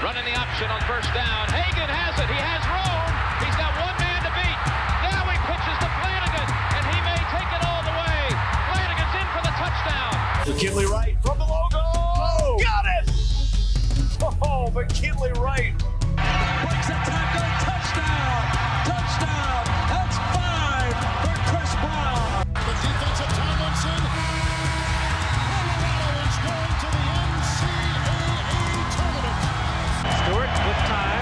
Running the option on first down. Hagan has it. He has room. He's got one man to beat. Now he pitches to Flanagan, and he may take it all the way. Flanagan's in for the touchdown. McKinley Wright from the logo. Oh, got it! Oh, McKinley Wright. Breaks a tackle. Touchdown. Touchdown. That's 5 for Chris Brown. The defensive Tomlinson. Colorado is going to the NCAA tournament. Stewart with time.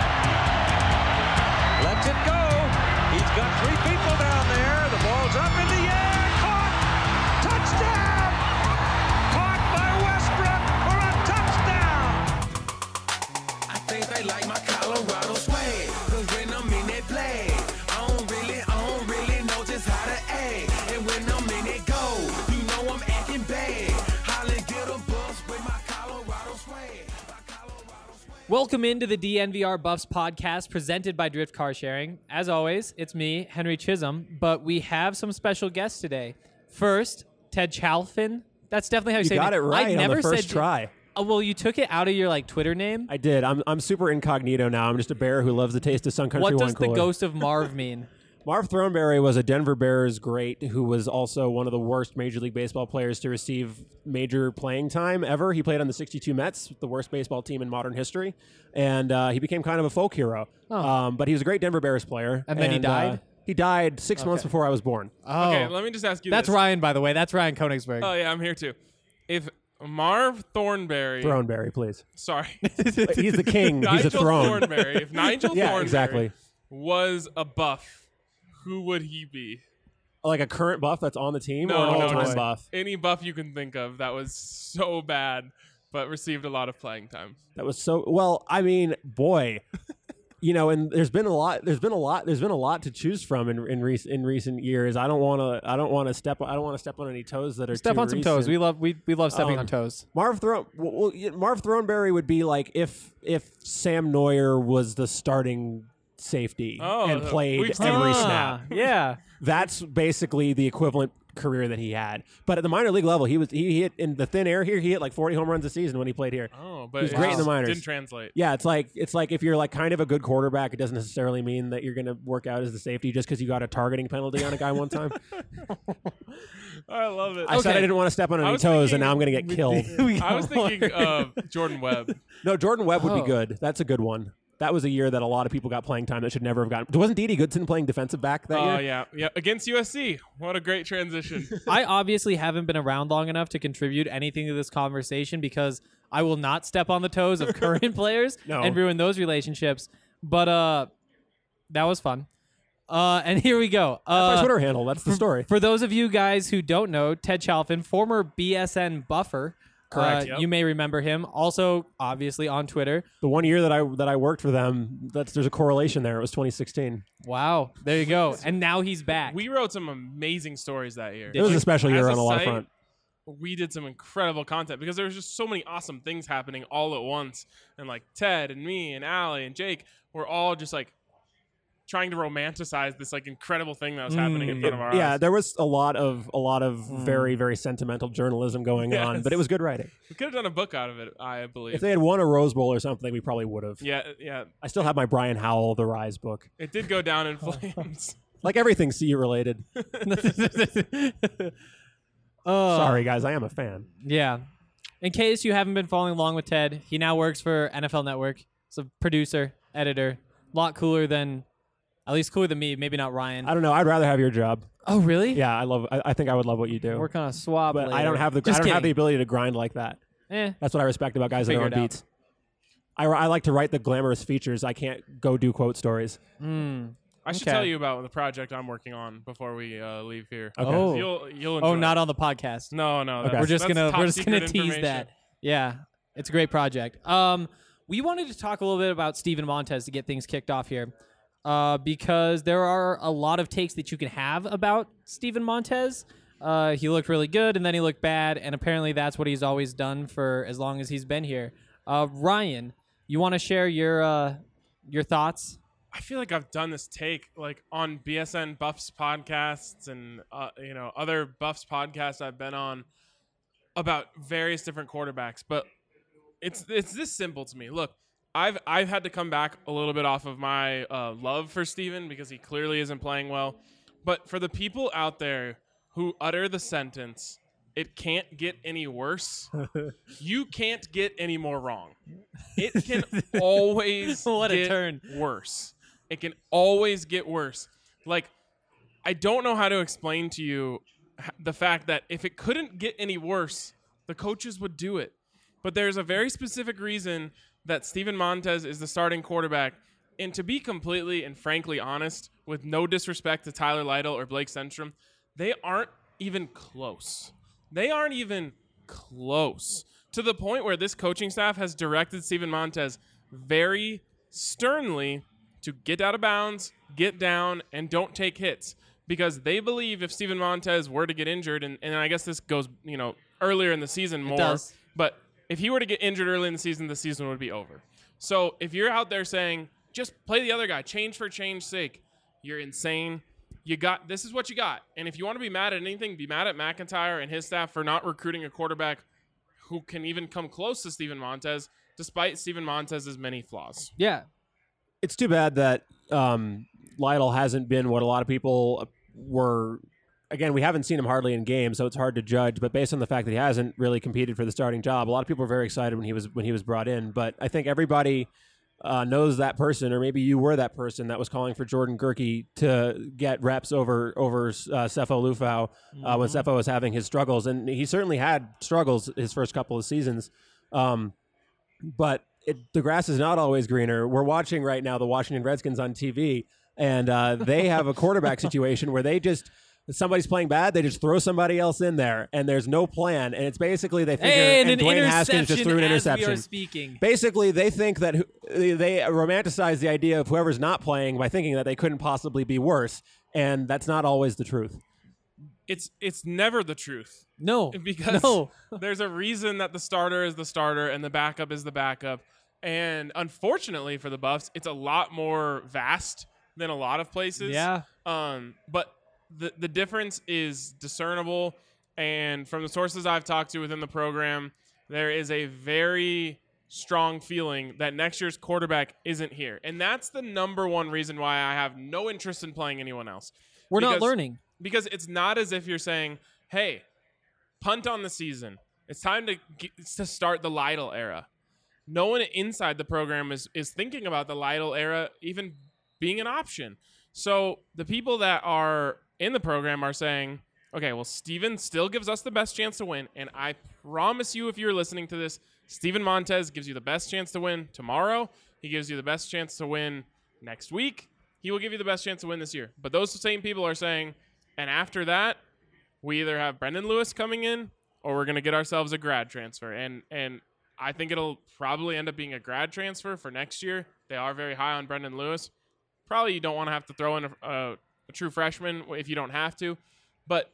Lets it go. He's got 3 people down there. The ball's up in the air. Caught. Touchdown. Caught by Westbrook for a touchdown. I think they like my Colorado swag. Cause when I'm in that play, I don't really know just how to act. And when I'm in it go, you know I'm acting bad. Holly get a bus with my Colorado swag. Welcome into the DNVR Buffs podcast presented by Drift Car Sharing. As always, it's me, Henry Chisholm, but we have some special guests today. First, Ted Chalfin. That's definitely how you say it. You got it right on the first try. Oh, well, you took it out of your Twitter name? I did. I'm super incognito now. I'm just a bear who loves the taste of Sun Country What wine does the cooler. ghost of Marv mean? Marv Thornberry was a Denver Bears great who was also one of the worst Major League Baseball players to receive major playing time ever. He played on the 62 Mets, the worst baseball team in modern history, and he became kind of a folk hero. Oh. But he was a great Denver Bears player. And then he died? He died 6 months before I was born. Oh. Okay, let me just ask you That's this. Ryan, by the way. That's Ryan Koenigsberg. Oh, yeah, I'm here too. If Marv Thornberry... Thornberry, please. Sorry. He's the king. He's a Nigel throne. Thornberry. If Nigel Yeah, Thornberry exactly. was a buff, who would he be? Like a current buff that's on the team or No, an no, all-time just buff? any buff you can think of that was so bad but received a lot of playing time. That was so well. I mean, boy, and there's been a lot to choose from in recent years. I don't want to step on any toes that are Step too on some recent. toes. We love stepping on toes. Marv Thornberry would be like if Sam Neuer was the starting safety and played we've seen every that. snap. Yeah. That's basically the equivalent career that he had. But at the minor league level, he hit in the thin air here. He hit like 40 home runs a season when he played here. Oh, but He was great in the minors. Didn't translate. Yeah, it's like if you're like kind of a good quarterback, it doesn't necessarily mean that you're going to work out as the safety just because you got a targeting penalty on a guy one time. I love it. I said I didn't want to step on any toes, and now I'm going to get killed. I was thinking of Jordan Webb. No, Jordan Webb would Oh. be good. That's a good one. That was a year that a lot of people got playing time that should never have gotten. Wasn't Dede Goodson playing defensive back that Oh, year? yeah. Against USC. What a great transition. I obviously haven't been around long enough to contribute anything to this conversation because I will not step on the toes of current players No. and ruin those relationships. But that was fun. And here we go. That's my Twitter handle. That's the story. For those of you guys who don't know, Ted Chalfin, former BSN buffer. Correct. You may remember him. Also, obviously, on Twitter. The 1 year that I worked for them, there's a correlation there. It was 2016. Wow. There you go. And now he's back. We wrote some amazing stories that year. It was a special year As on a lot of site, front. We did some incredible content because there was just so many awesome things happening all at once. And like Ted and me and Allie and Jake were all just like trying to romanticize this like incredible thing that was happening in front of our Yeah, eyes. there was a lot of very, very sentimental journalism going on, Yes. but it was good writing. We could have done a book out of it, I believe. If they had won a Rose Bowl or something, we probably would have. yeah. I still have my Brian Howell, The Rise book. It did go down in flames. Like everything CU related. Sorry, guys, I am a fan. Yeah. In case you haven't been following along with Ted, he now works for NFL Network. He's a producer, editor. A lot cooler than, at least cooler than me. Maybe not Ryan. I don't know. I'd rather have your job. Oh, really? Yeah, I think I would love what you do. Work on a swap. But later. I don't have the Just kidding. ability to grind like that. That's what I respect about guys that are Figure on it out. beats. I like to write the glamorous features. I can't go do quote stories. I should Okay. tell you about the project I'm working on before we leave here. Okay. Oh. You'll enjoy Oh, not it. on the podcast. No. Okay. That's, We're just that's gonna top secret tease information. that. Yeah, it's a great project. We wanted to talk a little bit about Steven Montez to get things kicked off here, because there are a lot of takes that you can have about Steven Montez. He looked really good, and then he looked bad, and apparently that's what he's always done for as long as he's been here. Ryan, you want to share your thoughts? I feel like I've done this take like on BSN Buffs podcasts and other Buffs podcasts I've been on about various different quarterbacks, but it's this simple to me. Look, I've had to come back a little bit off of my love for Steven because he clearly isn't playing well. But for the people out there who utter the sentence, "It can't get any worse," you can't get any more wrong. It can always What a get turn. worse. It can always get worse. Like, I don't know how to explain to you the fact that if it couldn't get any worse, the coaches would do it. But there's a very specific reason that Steven Montez is the starting quarterback. And to be completely and frankly honest, with no disrespect to Tyler Lytle or Blake Senstrom, they aren't even close. They aren't even close to the point where this coaching staff has directed Steven Montez very sternly to get out of bounds, get down, and don't take hits. Because they believe if Steven Montez were to get injured, and I guess this goes, earlier in the season more, does. but if he were to get injured early in the season would be over. So if you're out there saying, just play the other guy, change for change's sake, you're insane. This is what you got. And if you want to be mad at anything, be mad at McIntyre and his staff for not recruiting a quarterback who can even come close to Steven Montez, despite Steven Montez's many flaws. Yeah. It's too bad that Lytle hasn't been what a lot of people were. Again, we haven't seen him hardly in games, so it's hard to judge. But based on the fact that he hasn't really competed for the starting job, a lot of people were very excited when he was brought in. But I think everybody knows that person, or maybe you were that person that was calling for Jordan Gerke to get reps over Sefo Lufau when Sefo was having his struggles, and he certainly had struggles his first couple of seasons. But the grass is not always greener. We're watching right now the Washington Redskins on TV, and they have a quarterback situation where they just. If somebody's playing bad, they just throw somebody else in there, and there's no plan. And it's basically they figure, and Dwayne Haskins just threw an interception. We are speaking. Basically, they think that they romanticize the idea of whoever's not playing by thinking that they couldn't possibly be worse, and that's not always the truth. It's never the truth. No, because no. There's a reason that the starter is the starter and the backup is the backup. And unfortunately for the Buffs, it's a lot more vast than a lot of places. Yeah. But the difference is discernible, and from the sources I've talked to within the program, there is a very strong feeling that next year's quarterback isn't here. And that's the number one reason why I have no interest in playing anyone else. We're not learning. Because it's not as if you're saying, hey, punt on the season. It's time to start the Lytle era. No one inside the program is thinking about the Lytle era even being an option. So the people that are in the program are saying, okay, well, Steven still gives us the best chance to win. And I promise you, if you're listening to this, Steven Montez gives you the best chance to win tomorrow. He gives you the best chance to win next week. He will give you the best chance to win this year. But those same people are saying, and after that, we either have Brendan Lewis coming in or we're going to get ourselves a grad transfer. And I think it'll probably end up being a grad transfer for next year. They are very high on Brendan Lewis. Probably you don't want to have to throw in a true freshman if you don't have to. But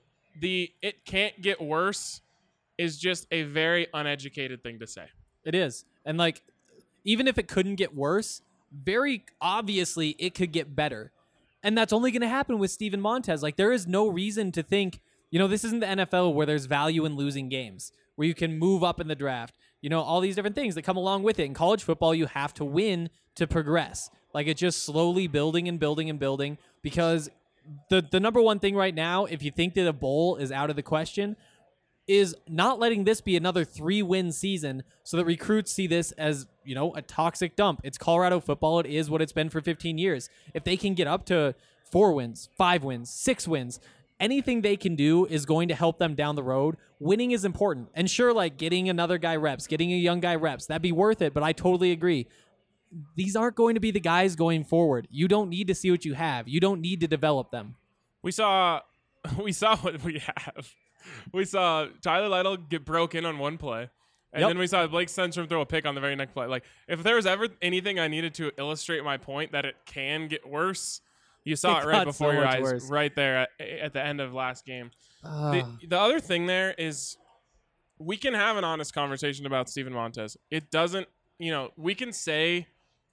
it can't get worse is just a very uneducated thing to say. It is. And even if it couldn't get worse, very obviously it could get better. And that's only going to happen with Steven Montez. There is no reason to think, this isn't the NFL where there's value in losing games, where you can move up in the draft. All these different things that come along with it. In college football, you have to win to progress. It's just slowly building and building and building, because the number one thing right now, if you think that a bowl is out of the question, is not letting this be another 3-win season so that recruits see this as, a toxic dump. It's Colorado football. It is what it's been for 15 years. If they can get up to 4 wins, 5 wins, 6 wins, anything they can do is going to help them down the road. Winning is important. And sure, getting another guy reps, getting a young guy reps, that'd be worth it. But I totally agree. These aren't going to be the guys going forward. You don't need to see what you have. You don't need to develop them. We saw what we have. We saw Tyler Lytle get broken on one play. And then we saw Blake Senstrom throw a pick on the very next play. If there was ever anything I needed to illustrate my point that it can get worse, you saw it right before your eyes, worse. right there at the end of last game. The other thing there is we can have an honest conversation about Steven Montez. It doesn't, we can say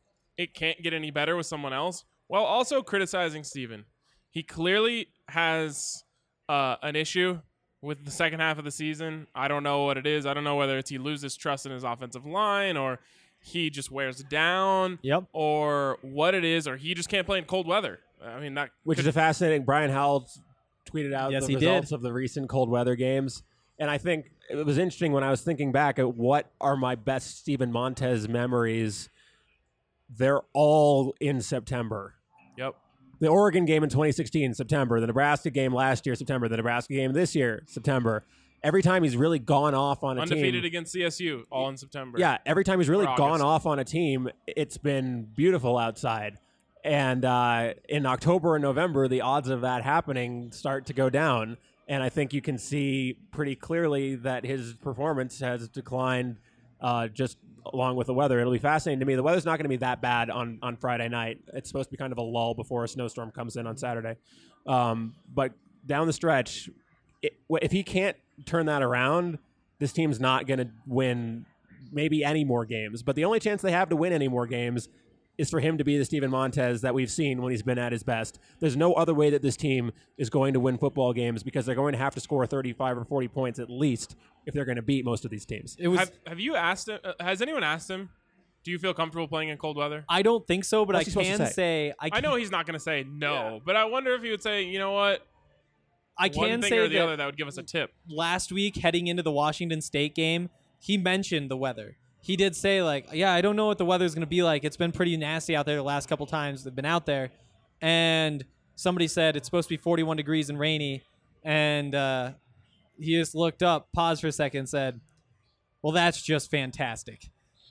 it can't get any better with someone else while also criticizing Steven. He clearly has an issue with the second half of the season. I don't know what it is. I don't know whether it's he loses trust in his offensive line or he just wears down, Yep. or what it is, or he just can't play in cold weather. I mean, that Which is a fascinating. Brian Howell tweeted out Yes, the he did. results of the recent cold weather games. And I think it was interesting when I was thinking back at what are my best Steven Montez memories. They're all in September. Yep. The Oregon game in 2016, September. The Nebraska game last year, September. The Nebraska game this year, September. Every time he's really gone off on a Undefeated team. against CSU, all in September. Yeah, every time he's really Or gone August. off on a team, it's been beautiful outside. And in October and November, the odds of that happening start to go down. And I think you can see pretty clearly that his performance has declined just along with the weather. It'll be fascinating to me. The weather's not going to be that bad on Friday night. It's supposed to be kind of a lull before a snowstorm comes in on Saturday. But down the stretch, if he can't turn that around, this team's not going to win maybe any more games. But the only chance they have to win any more games is for him to be the Steven Montez that we've seen when he's been at his best. There's no other way that this team is going to win football games because they're going to have to score 35 or 40 points at least if they're going to beat most of these teams. It was. Have you asked him? Has anyone asked him? Do you feel comfortable playing in cold weather? I don't think so, but What's I he supposed to can say? say I know he's not going to say no, but I wonder if he would say, you know what, I one can thing say or the that other that would give us a tip. last week heading into the Washington State game, he mentioned the weather. He did say, like, yeah, I don't know what the weather's going to be like. It's been pretty nasty out there the last couple times they've been out there. And somebody said it's supposed to be 41 degrees and rainy. And he just looked up, paused for a second, and said, well, that's just fantastic.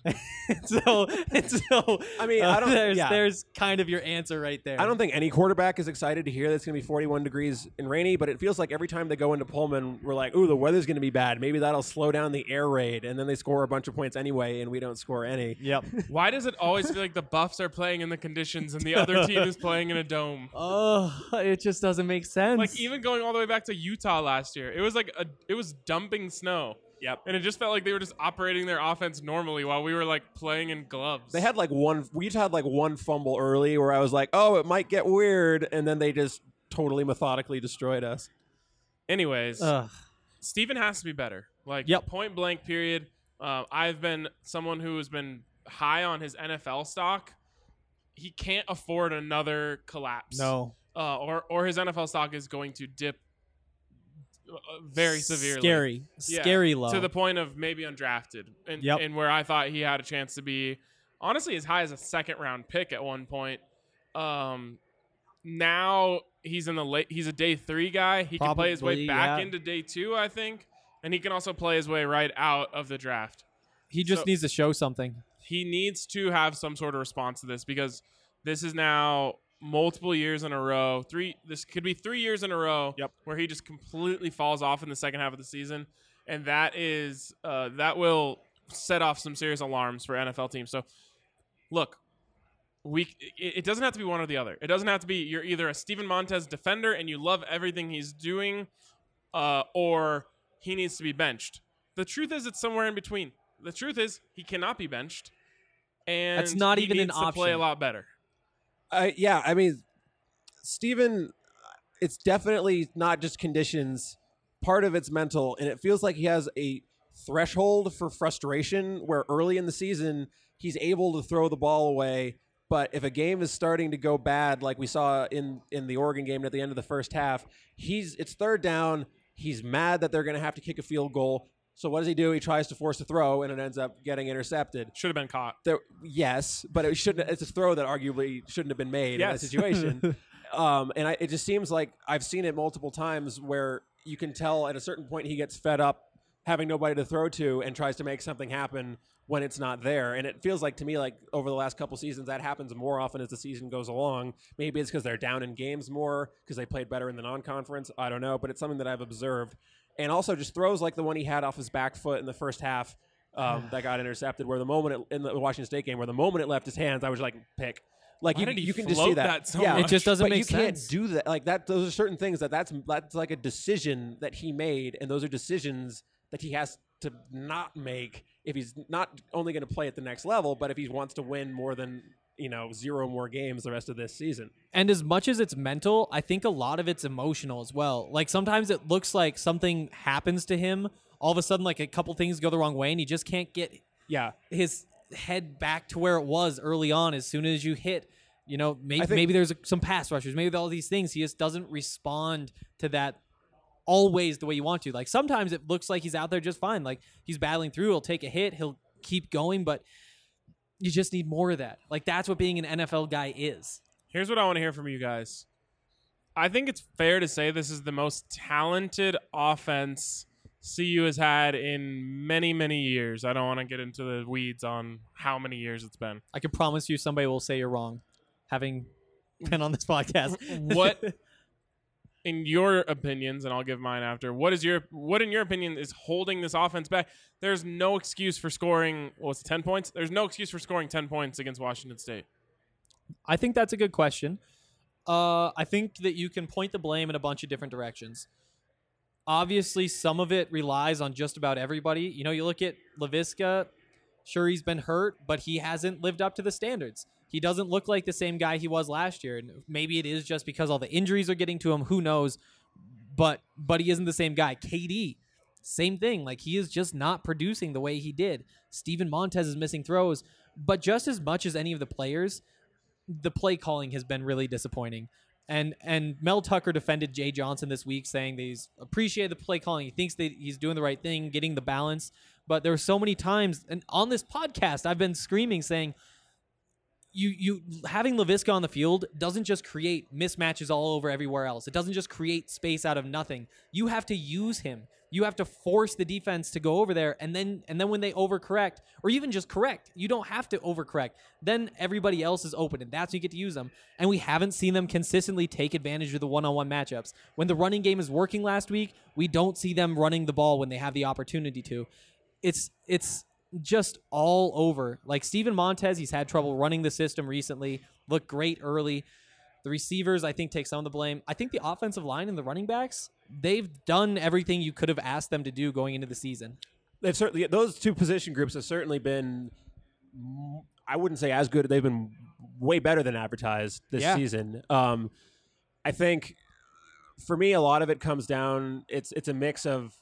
so I mean, I don't- there's kind of your answer right there. I don't think any quarterback is excited to hear that it's going to be 41 degrees and rainy, but it feels like every time they go into Pullman, we're like, ooh, the weather's going to be bad. Maybe that'll slow down the air raid, and then they score a bunch of points anyway, and we don't score any. Yep. Why does it always feel like the Buffs are playing in the conditions and the other team is playing in a dome? Oh, it just doesn't make sense. Like even going all the way back to Utah last year, it was like it was dumping snow. Yep. And it just felt like they were just operating their offense normally while we were like playing in gloves. They had we just had like one fumble early where I was like, oh, it might get weird, and then they just totally methodically destroyed us. Anyways, Ugh. Steven has to be better. Like Yep. point blank period. I've been someone who has been high on his NFL stock. He can't afford another collapse. No. Or his NFL stock is going to dip very severely. Scary low. To the point of maybe undrafted. And where I thought he had a chance to be, honestly, as high as a second-round pick at one point. Now he's in the late. He's a day 3 guy. He can play his way Probably, back yeah. into day 2, I think. And he can also play his way right out of the draft. He just So- needs to show something. He needs to have some sort of response to this because this is now multiple years in a row. This could be 3 years in a row where he just completely falls off in the second half of the season. And that is that will set off some serious alarms for NFL teams. So look, it doesn't have to be one or the other. It doesn't have to be you're either a Steven Montez defender and you love everything he's doing, or he needs to be benched. The truth is it's somewhere in between. The truth is he cannot be benched. And That's not he even an needs to play a option. lot better. Yeah, I mean, Steven, it's definitely not just conditions. Part of it's mental, and it feels like he has a threshold for frustration where early in the season he's able to throw the ball away, but if a game is starting to go bad, like we saw in the Oregon game at the end of the first half, it's third down. He's mad that they're going to have to kick a field goal. So what does he do? He tries to force a throw, and it ends up getting intercepted. Should have been caught. Yes, but it shouldn't. It's a throw that arguably shouldn't have been made in that situation. It just seems like I've seen it multiple times where you can tell at a certain point he gets fed up having nobody to throw to and tries to make something happen when it's not there. And it feels like to me like over the last couple seasons that happens more often as the season goes along. Maybe it's because they're down in games more because they played better in the non-conference. I don't know, but it's something that I've observed. And also just throws like the one he had off his back foot in the first half that got intercepted, where the moment in the Washington State game, where the moment it left his hands, I was like, pick. Like Why did he you can just float see that. that so yeah, much? It just doesn't but make you can't sense. do that. Like that, those are certain things that's like a decision that he made, and those are decisions that he has to not make if he's not only going to play at the next level, but if he wants to win more than 0 more games the rest of this season. And as much as it's mental, I think a lot of it's emotional as well. Like sometimes it looks like something happens to him. All of a sudden, like a couple things go the wrong way, and he just can't get Yeah, his head back to where it was early on as soon as you hit. Maybe there's some pass rushers, maybe all these things. He just doesn't respond to that always the way you want to. Like sometimes it looks like he's out there just fine. Like he's battling through, he'll take a hit, he'll keep going, but you just need more of that. Like that's what being an NFL guy is. Here's what I want to hear from you guys. I think it's fair to say this is the most talented offense CU has had in many, many years. I don't want to get into the weeds on how many years it's been. I can promise you somebody will say you're wrong, having been on this podcast. What, in your opinions, and I'll give mine after, what in your opinion is holding this offense back? There's no excuse for scoring, 10 points? There's no excuse for scoring 10 points against Washington State. I think that's a good question. I think that you can point the blame in a bunch of different directions. Obviously, some of it relies on just about everybody. You look at Laviska. Sure, he's been hurt, but he hasn't lived up to the standards. He doesn't look like the same guy he was last year. And maybe it is just because all the injuries are getting to him. Who knows? But he isn't the same guy. KD, same thing. Like, he is just not producing the way he did. Steven Montez is missing throws. But just as much as any of the players, the play calling has been really disappointing. And Mel Tucker defended Jay Johnson this week, saying that he's appreciated the play calling. He thinks that he's doing the right thing, getting the balance. But there were so many times, and on this podcast, I've been screaming, saying, you having Laviska on the field doesn't just create mismatches all over everywhere else. It doesn't just create space out of nothing. You have to use him. You have to force the defense to go over there, and then when they overcorrect, or even just correct, you don't have to overcorrect. Then everybody else is open, and that's when you get to use them. And we haven't seen them consistently take advantage of the one-on-one matchups. When the running game is working last week, we don't see them running the ball when they have the opportunity to. It's just all over. Like Steven Montez, he's had trouble running the system recently, looked great early. The receivers, I think, take some of the blame. I think the offensive line and the running backs, they've done everything you could have asked them to do going into the season. They've certainly, those two position groups have certainly been, I wouldn't say as good. They've been way better than advertised this season. I think for me, a lot of it comes down, it's a mix of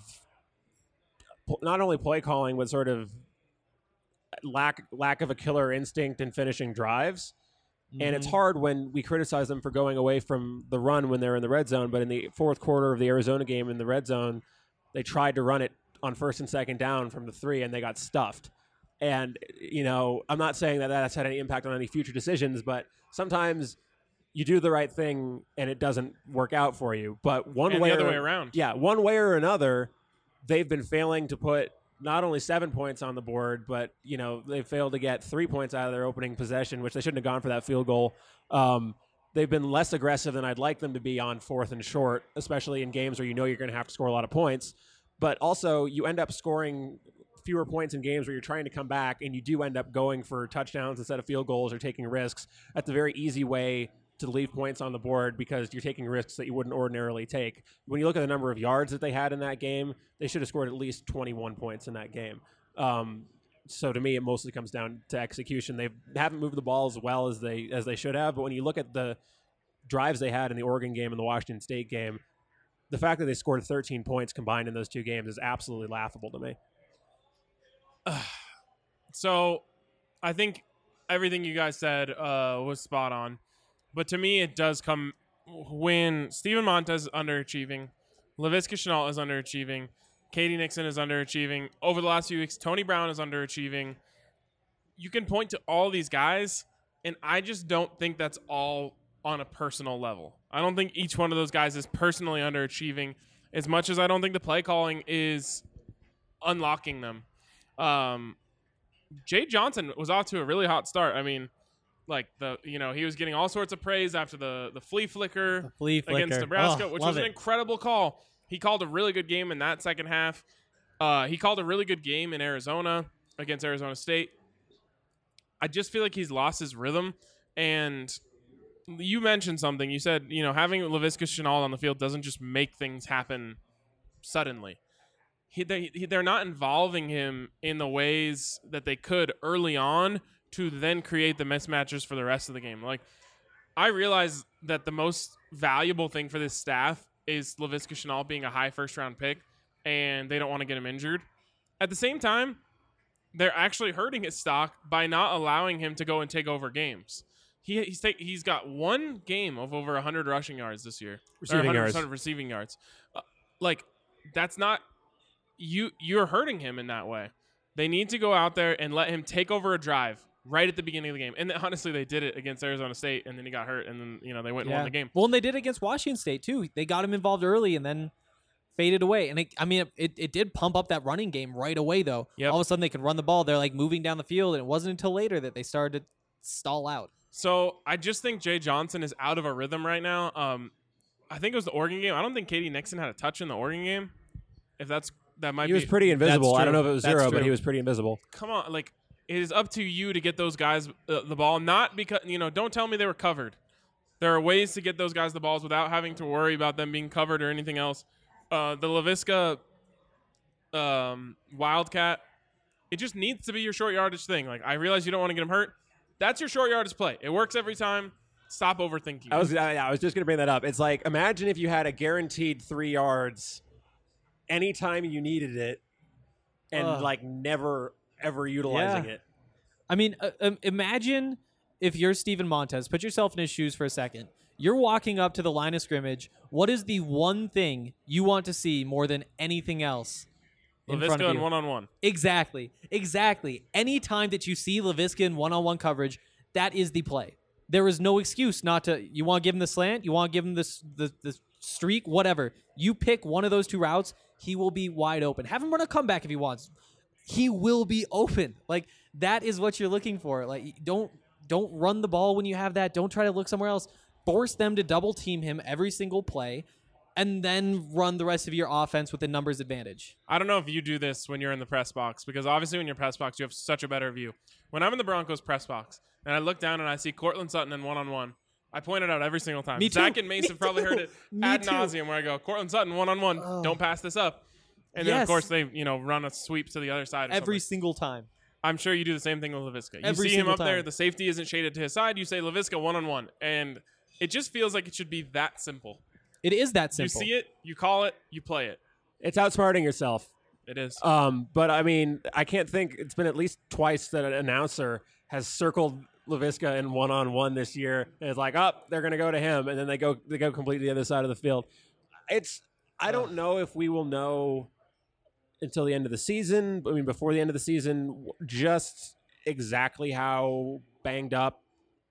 not only play calling, but sort of lack of a killer instinct in finishing drives. And it's hard when we criticize them for going away from the run when they're in the red zone. But in the fourth quarter of the Arizona game in the red zone, they tried to run it on first and second down from the 3, and they got stuffed. And, I'm not saying that that's had any impact on any future decisions, but sometimes you do the right thing and it doesn't work out for you. But one way the other way around. Yeah, one way or another, they've been failing to put not only 7 points on the board, but, they failed to get 3 points out of their opening possession, which they shouldn't have gone for that field goal. They've been less aggressive than I'd like them to be on fourth and short, especially in games where you're going to have to score a lot of points. But also, you end up scoring fewer points in games where you're trying to come back, and you do end up going for touchdowns instead of field goals or taking risks. That's a very easy way to leave points on the board because you're taking risks that you wouldn't ordinarily take. When you look at the number of yards that they had in that game, they should have scored at least 21 points in that game. So to me, it mostly comes down to execution. They haven't moved the ball as well as they should have. But when you look at the drives they had in the Oregon game and the Washington State game, the fact that they scored 13 points combined in those two games is absolutely laughable to me. So I think everything you guys said was spot on. But to me, it does come when Steven Montez is underachieving, Laviska Shenault is underachieving, Katie Nixon is underachieving. Over the last few weeks, Tony Brown is underachieving. You can point to all these guys, and I just don't think that's all on a personal level. I don't think each one of those guys is personally underachieving as much as I don't think the play calling is unlocking them. Jay Johnson was off to a really hot start. I mean, he was getting all sorts of praise after the flea flicker against Nebraska, which was an incredible call. He called a really good game in that second half. He called a really good game in Arizona against Arizona State. I just feel like he's lost his rhythm. And you mentioned something. You said, having Laviska Shenault on the field doesn't just make things happen suddenly. They're not involving him in the ways that they could early on to then create the mismatches for the rest of the game. Like, I realize that the most valuable thing for this staff is Laviska Shenault being a high first-round pick, and they don't want to get him injured. At the same time, they're actually hurting his stock by not allowing him to go and take over games. He's got one game of over 100 rushing yards this year. Receiving yards. 100 receiving yards. Like, that's not you're hurting him in that way. They need to go out there and let him take over a drive right at the beginning of the game. And honestly, they did it against Arizona State, and then he got hurt, and then they went and won the game. Well, and they did it against Washington State too. They got him involved early and then faded away. And it did pump up that running game right away though. Yep. All of a sudden they could run the ball. They're like moving down the field, and it wasn't until later that they started to stall out. So I just think Jay Johnson is out of a rhythm right now. I think it was the Oregon game. I don't think Katie Nixon had a touch in the Oregon game. If that might be. He was pretty invisible. That's I don't know if it true. was That's 0, but true. he was pretty invisible. Come on, like, it is up to you to get those guys the ball. Not because don't tell me they were covered. There are ways to get those guys the balls without having to worry about them being covered or anything else. The LaVisca Wildcat, it just needs to be your short yardage thing. Like, I realize you don't want to get him hurt. That's your short yardage play. It works every time. Stop overthinking. I was just going to bring that up. It's like, imagine if you had a guaranteed 3 yards anytime you needed it, and like never ever utilizing it. I mean, imagine if you're Steven Montez. Put yourself in his shoes for a second. You're walking up to the line of scrimmage. What is the one thing you want to see more than anything else in front of LaVisca you? and one-on-one. Exactly. Any time that you see LaVisca in one-on-one coverage, that is the play. There is no excuse not to. You want to give him the slant, you want to give him the streak, whatever. You pick one of those two routes, he will be wide open. Have him run a comeback if he wants. He will be open. Like, that is what you're looking for. Like, don't run the ball when you have that. Don't try to look somewhere else. Force them to double team him every single play, and then run the rest of your offense with a numbers advantage. I don't know if you do this when you're in the press box, because obviously when you're press box, you have such a better view. When I'm in the Broncos press box and I look down and I see Cortland Sutton in one-on-one, I point it out every single time. Me too. Zach and Mace have probably heard it ad too. nauseum, where I go, Cortland Sutton one-on-one, don't pass this up. And then, of Yes. course, they run a sweep to the other side or Every something. single time. I'm sure you do the same thing with LaVisca. You Every see him single up there, time. the safety isn't shaded to his side, you say LaVisca one-on-one. And it just feels like it should be that simple. It is that simple. You see it, you call it, you play it. It's outsmarting yourself. It is. But I mean, I can't think. It's been at least twice that an announcer has circled LaVisca in one-on-one this year, and it's like, oh, they're going to go to him, and then they go completely the other side of the field. I don't know if we will know until the end of the season. I mean, before the end of the season, just exactly how banged up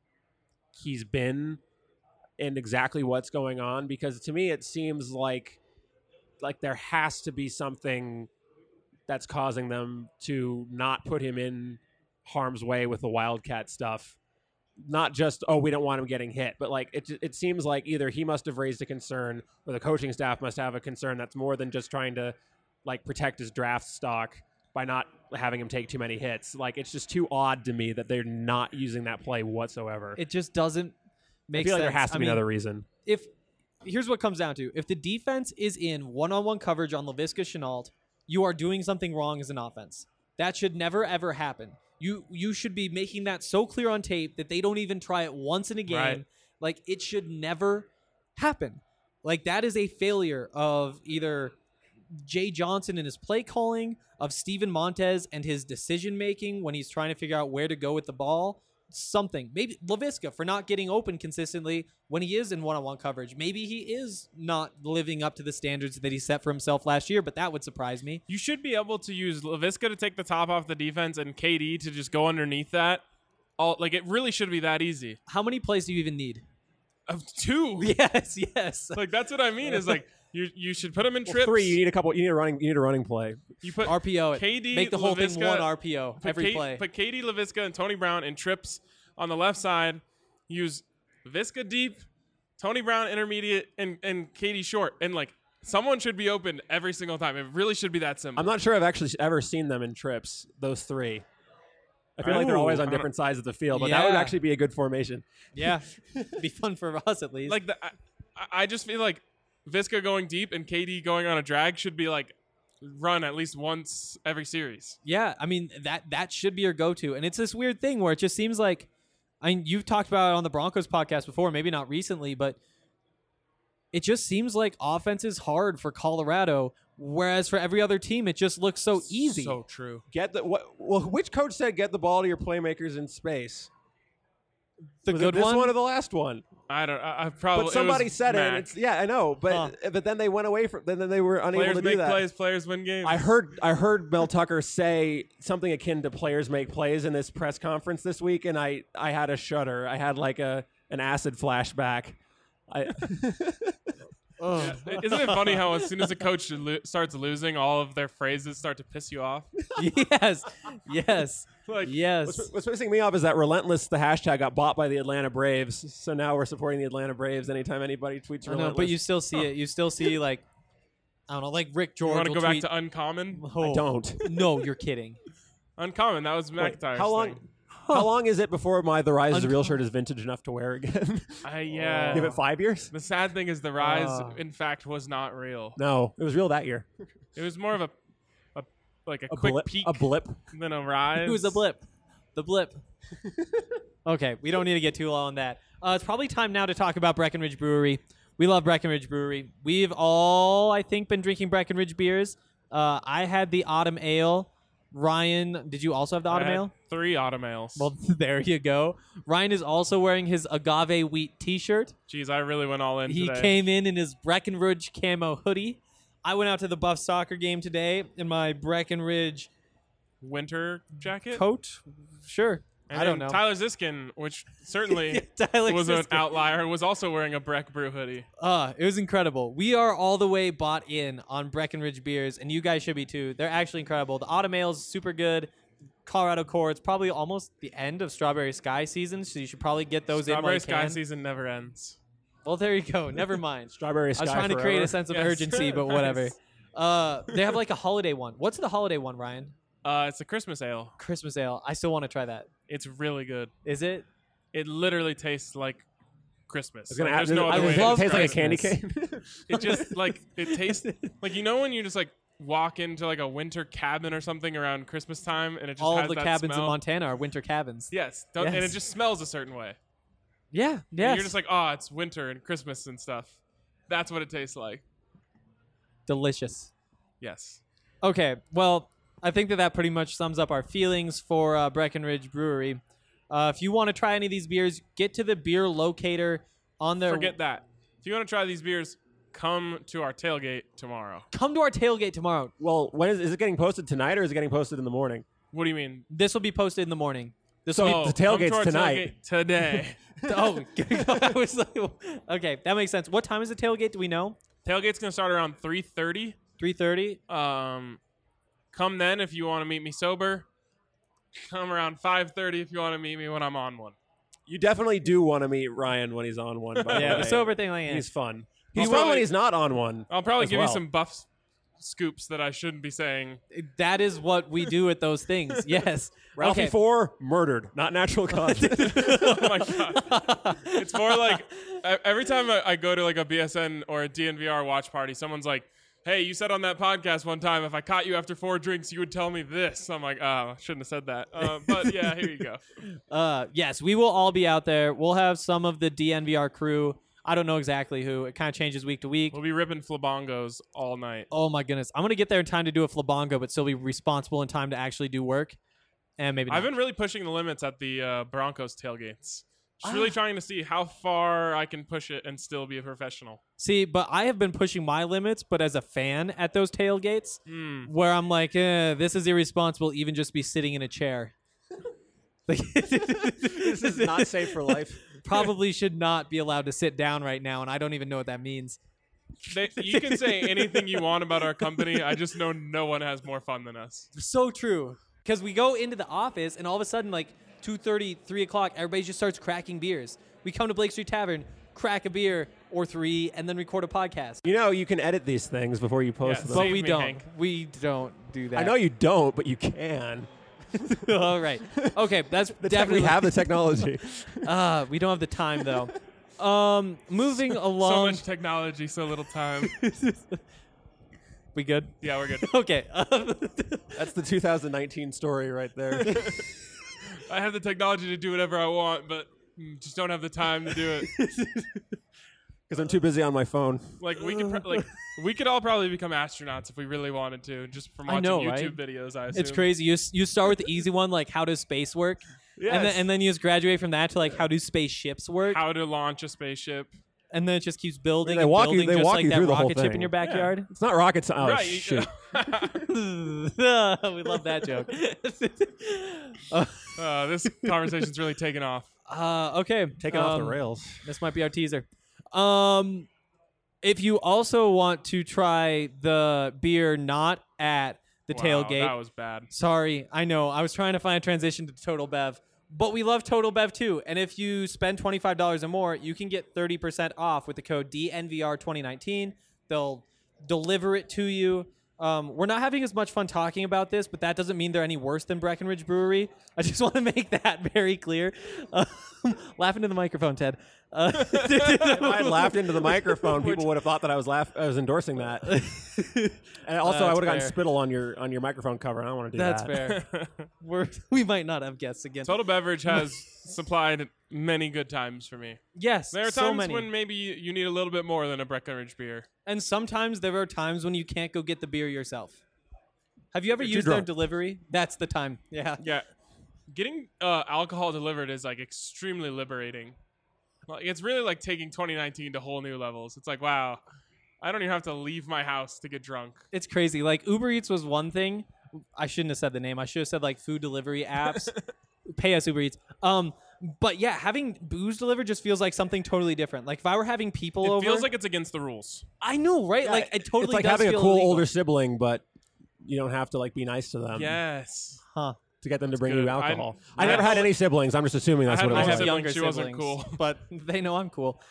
he's been and exactly what's going on, because to me it seems like there has to be something that's causing them to not put him in harm's way with the Wildcat stuff. Not just, oh, we don't want him getting hit, but like it seems like either he must have raised a concern or the coaching staff must have a concern that's more than just trying to like protect his draft stock by not having him take too many hits. Like, it's just too odd to me that they're not using that play whatsoever. It just doesn't make I feel sense. like there has to be another reason. Here's what it comes down to. If the defense is in one-on-one coverage on LaVisca Chenault, you are doing something wrong as an offense. That should never, ever happen. You should be making that so clear on tape that they don't even try it once in a game. Right. Like, it should never happen. Like, that is a failure of either Jay Johnson and his play calling, of Steven Montez and his decision-making when he's trying to figure out where to go with the ball. Something. Maybe LaVisca for not getting open consistently when he is in one-on-one coverage. Maybe he is not living up to the standards that he set for himself last year, but that would surprise me. You should be able to use LaVisca to take the top off the defense and KD to just go underneath that. It really should be that easy. How many plays do you even need? Of 2. Yes. Like, that's what I mean, is like you should put him in Well, trips. 3, you need a running play. You put RPO it. KD, Make the whole thing LaVisca, one RPO every play. Put KD, LaVisca, and Tony Brown in trips on the left side. Use LaVisca deep, Tony Brown intermediate, and KD short. And like, someone should be open every single time. It really should be that simple. I'm not sure I've actually ever seen them in trips, those 3. I feel like they're always on different sides of the field, but that would Yeah. actually be a good formation. Yeah. It'd be fun for us at least. Like, I just feel like Visca going deep and KD going on a drag should be like run at least once every series. Yeah, I mean, that should be your go-to. And it's this weird thing where it just seems like, I mean, you've talked about it on the Broncos podcast before, maybe not recently, but it just seems like offense is hard for Colorado Whereas for every other team, it just looks so easy. So true. Which coach said get the ball to your playmakers in space? the Was good it this one? one or the last one? I don't. I probably. But somebody it was said it. Mac. And it's, yeah, I know. But then they went away from. Then they were unable Players to do make that. plays. Players win games. I heard Mel Tucker say something akin to "players make plays" in this press conference this week, and I had a shudder. I had like an acid flashback. Yeah. Isn't it funny how as soon as a coach starts losing, all of their phrases start to piss you off? yes. Like, Yes. What's pissing me off is that Relentless, the hashtag, got bought by the Atlanta Braves. So now we're supporting the Atlanta Braves anytime anybody tweets I Relentless. know, but you still see it. You still see like, I don't know, like Rick You George. want to will go back tweet, to Uncommon? Oh, I don't. No, you're kidding. Uncommon. That was Wait, McIntyre's how long? thing. How long is it before the Rise is a real shirt is vintage enough to wear again? Yeah. Give it 5 years? The sad thing is the rise, in fact, was not real. No, it was real that year. It was more of a quick blip, peak a blip. than a rise. It was a blip. The blip. Okay, we don't need to get too long on that. It's probably time now to talk about Breckenridge Brewery. We love Breckenridge Brewery. We've all, I think, been drinking Breckenridge beers. I had the Autumn Ale. Ryan, did you also have the I Autumn had Ale? 3 Autumn Ales. Well, there you go. Ryan is also wearing his agave wheat T-shirt. Jeez, I really went all in He today. came in his Breckenridge camo hoodie. I went out to the Buff soccer game today in my Breckenridge Winter jacket. coat. Sure. And I don't then know. Tyler Ziskin, which certainly Tyler was an Ziskin. outlier, was also wearing a Breck Brew hoodie. It was incredible. We are all the way bought in on Breckenridge beers, and you guys should be too. They're actually incredible. The Autumn Ale is super good. Colorado Core, it's probably almost the end of Strawberry Sky season, so you should probably get those in while Strawberry you Sky can. season never ends. Well, there you go. Never mind. Strawberry I Sky was trying to forever. create a sense of Yes. urgency, but Nice. whatever. They have like a holiday one. What's the holiday one, Ryan? It's a Christmas ale. Christmas Ale. I still want to try that. It's really good. Is it? It literally tastes like Christmas. I was gonna Like, ask, there's no I other way to love it tastes like a describe candy Christmas. cane. It just like it tastes like when you just like walk into like a winter cabin or something around Christmas time and it just All has of the that cabins smell. in Montana are winter cabins. Yes, and it Yes. just smells a certain way. Yeah. And Yes. you're just like, oh, it's winter and Christmas and stuff. That's what it tastes like. Delicious. Yes. Okay, well, I think that pretty much sums up our feelings for Breckenridge Brewery. If you want to try any of these beers, get to the beer locator on their. Forget that. If you want to try these beers, come to our tailgate tomorrow. Come to our tailgate tomorrow. Well, when is it getting posted tonight or is it getting posted in the morning? What do you mean? This will be posted in the morning. This So- will the come tailgate's to our tonight. tailgate today. be. Oh, I was like, okay, that makes sense. What time is the tailgate? Do we know? Tailgate's gonna start around 3:30. 3:30. Come then if you want to meet me sober. Come around 5:30 if you want to meet me when I'm on one. You definitely do want to meet Ryan when he's on one. By Yeah, the the way. sober thing, like, yeah. He's fun. He's He's fun probably- when he's not on one. I'll probably as give well. you some buff scoops that I shouldn't be saying. That is what we do at those things. Yes. Ralphie Okay. 4 murdered, not natural causes. Oh my god! It's more like every time I go to like a BSN or a DNVR watch party, someone's like, "Hey, you said on that podcast one time if I caught you after 4 drinks, you would tell me this." I'm like, "Oh, I shouldn't have said that." But yeah, here you go. Yes, we will all be out there. We'll have some of the DNVR crew. I don't know exactly who. It kind of changes week to week. We'll be ripping flabongos all night. Oh my goodness. I'm going to get there in time to do a flabongo, but still be responsible in time to actually do work. And maybe I've not. been really pushing the limits at the Broncos tailgates. Just really trying to see how far I can push it and still be a professional. See, but I have been pushing my limits, but as a fan at those tailgates, Hmm. where I'm like, this is irresponsible, even just be sitting in a chair. Like, This is not safe for life. Probably should not be allowed to sit down right now, and I don't even know what that means. You can say anything you want about our company. I just know no one has more fun than us. So true. Because we go into the office, and all of a sudden, like 2:30, 3 o'clock, everybody just starts cracking beers. We come to Blake Street Tavern, crack a beer or 3, and then record a podcast. You know, you can edit these things before you post Yeah, them. But Save we me, don't. Hank. We don't do that. I know you don't, but you can. All right. Okay, that's We definitely have the technology. we don't have the time though. Moving So along. much technology, so little time. We good? Yeah, we're good. Okay. That's the 2019 story right there. I have the technology to do whatever I want, but just don't have the time to do it. Because I'm too busy on my phone. Like we could all probably become astronauts if we really wanted to, just from watching know, YouTube right? videos. I assume It's crazy. You start with the easy one, like how does space work, Yes. and then you just graduate from that to like how do spaceships work, How to launch a spaceship. and then it just keeps building. They and walk you- building, they just walk like you that through the whole rocket ship in thing. your backyard. It's not rocket science. Oh, Right. shoot. We love that joke. This conversation's really taken off. Okay, Taking off the rails. This might be our teaser. If you also want to try the beer not at the Wow, tailgate, that was bad. sorry, I know. I was trying to find a transition to Total Bev, but we love Total Bev too. And if you spend $25 or more, you can get 30% off with the code DNVR2019. They'll deliver it to you. We're not having as much fun talking about this, but that doesn't mean they're any worse than Breckenridge Brewery. I just want to make that very clear. Laugh into the microphone, Ted. If I had laughed into the microphone, people would have thought that I was endorsing that. And also, I That's would have gotten fair. spittle on your microphone cover. I don't want to do That's that. fair. We might not have guests again. Total Beverage has supplied many good times for me. Yes, There are so times many. when maybe you need a little bit more than a Breckenridge beer. And sometimes there are times when you can't go get the beer yourself. Have you ever You're too used their drunk. delivery? That's the time. Yeah. Yeah, getting alcohol delivered is like extremely liberating. Like it's really like taking 2019 to whole new levels. It's like, wow, I don't even have to leave my house to get drunk. It's crazy. Like Uber Eats was one thing. I shouldn't have said the name. I should have said like food delivery apps. Pay us Uber Eats. But yeah, having booze delivered just feels like something totally different. Like if I were having people It over, feels like it's against the rules. I know, right? Yeah, like it totally it's like does having a feel cool illegal. older sibling, but you don't have to like be nice to them Yes. Huh. to get them to bring good. you alcohol. I I never had had any siblings. I'm just assuming that's I had what it my was. I have sibling, younger she wasn't siblings, cool. but they know I'm cool.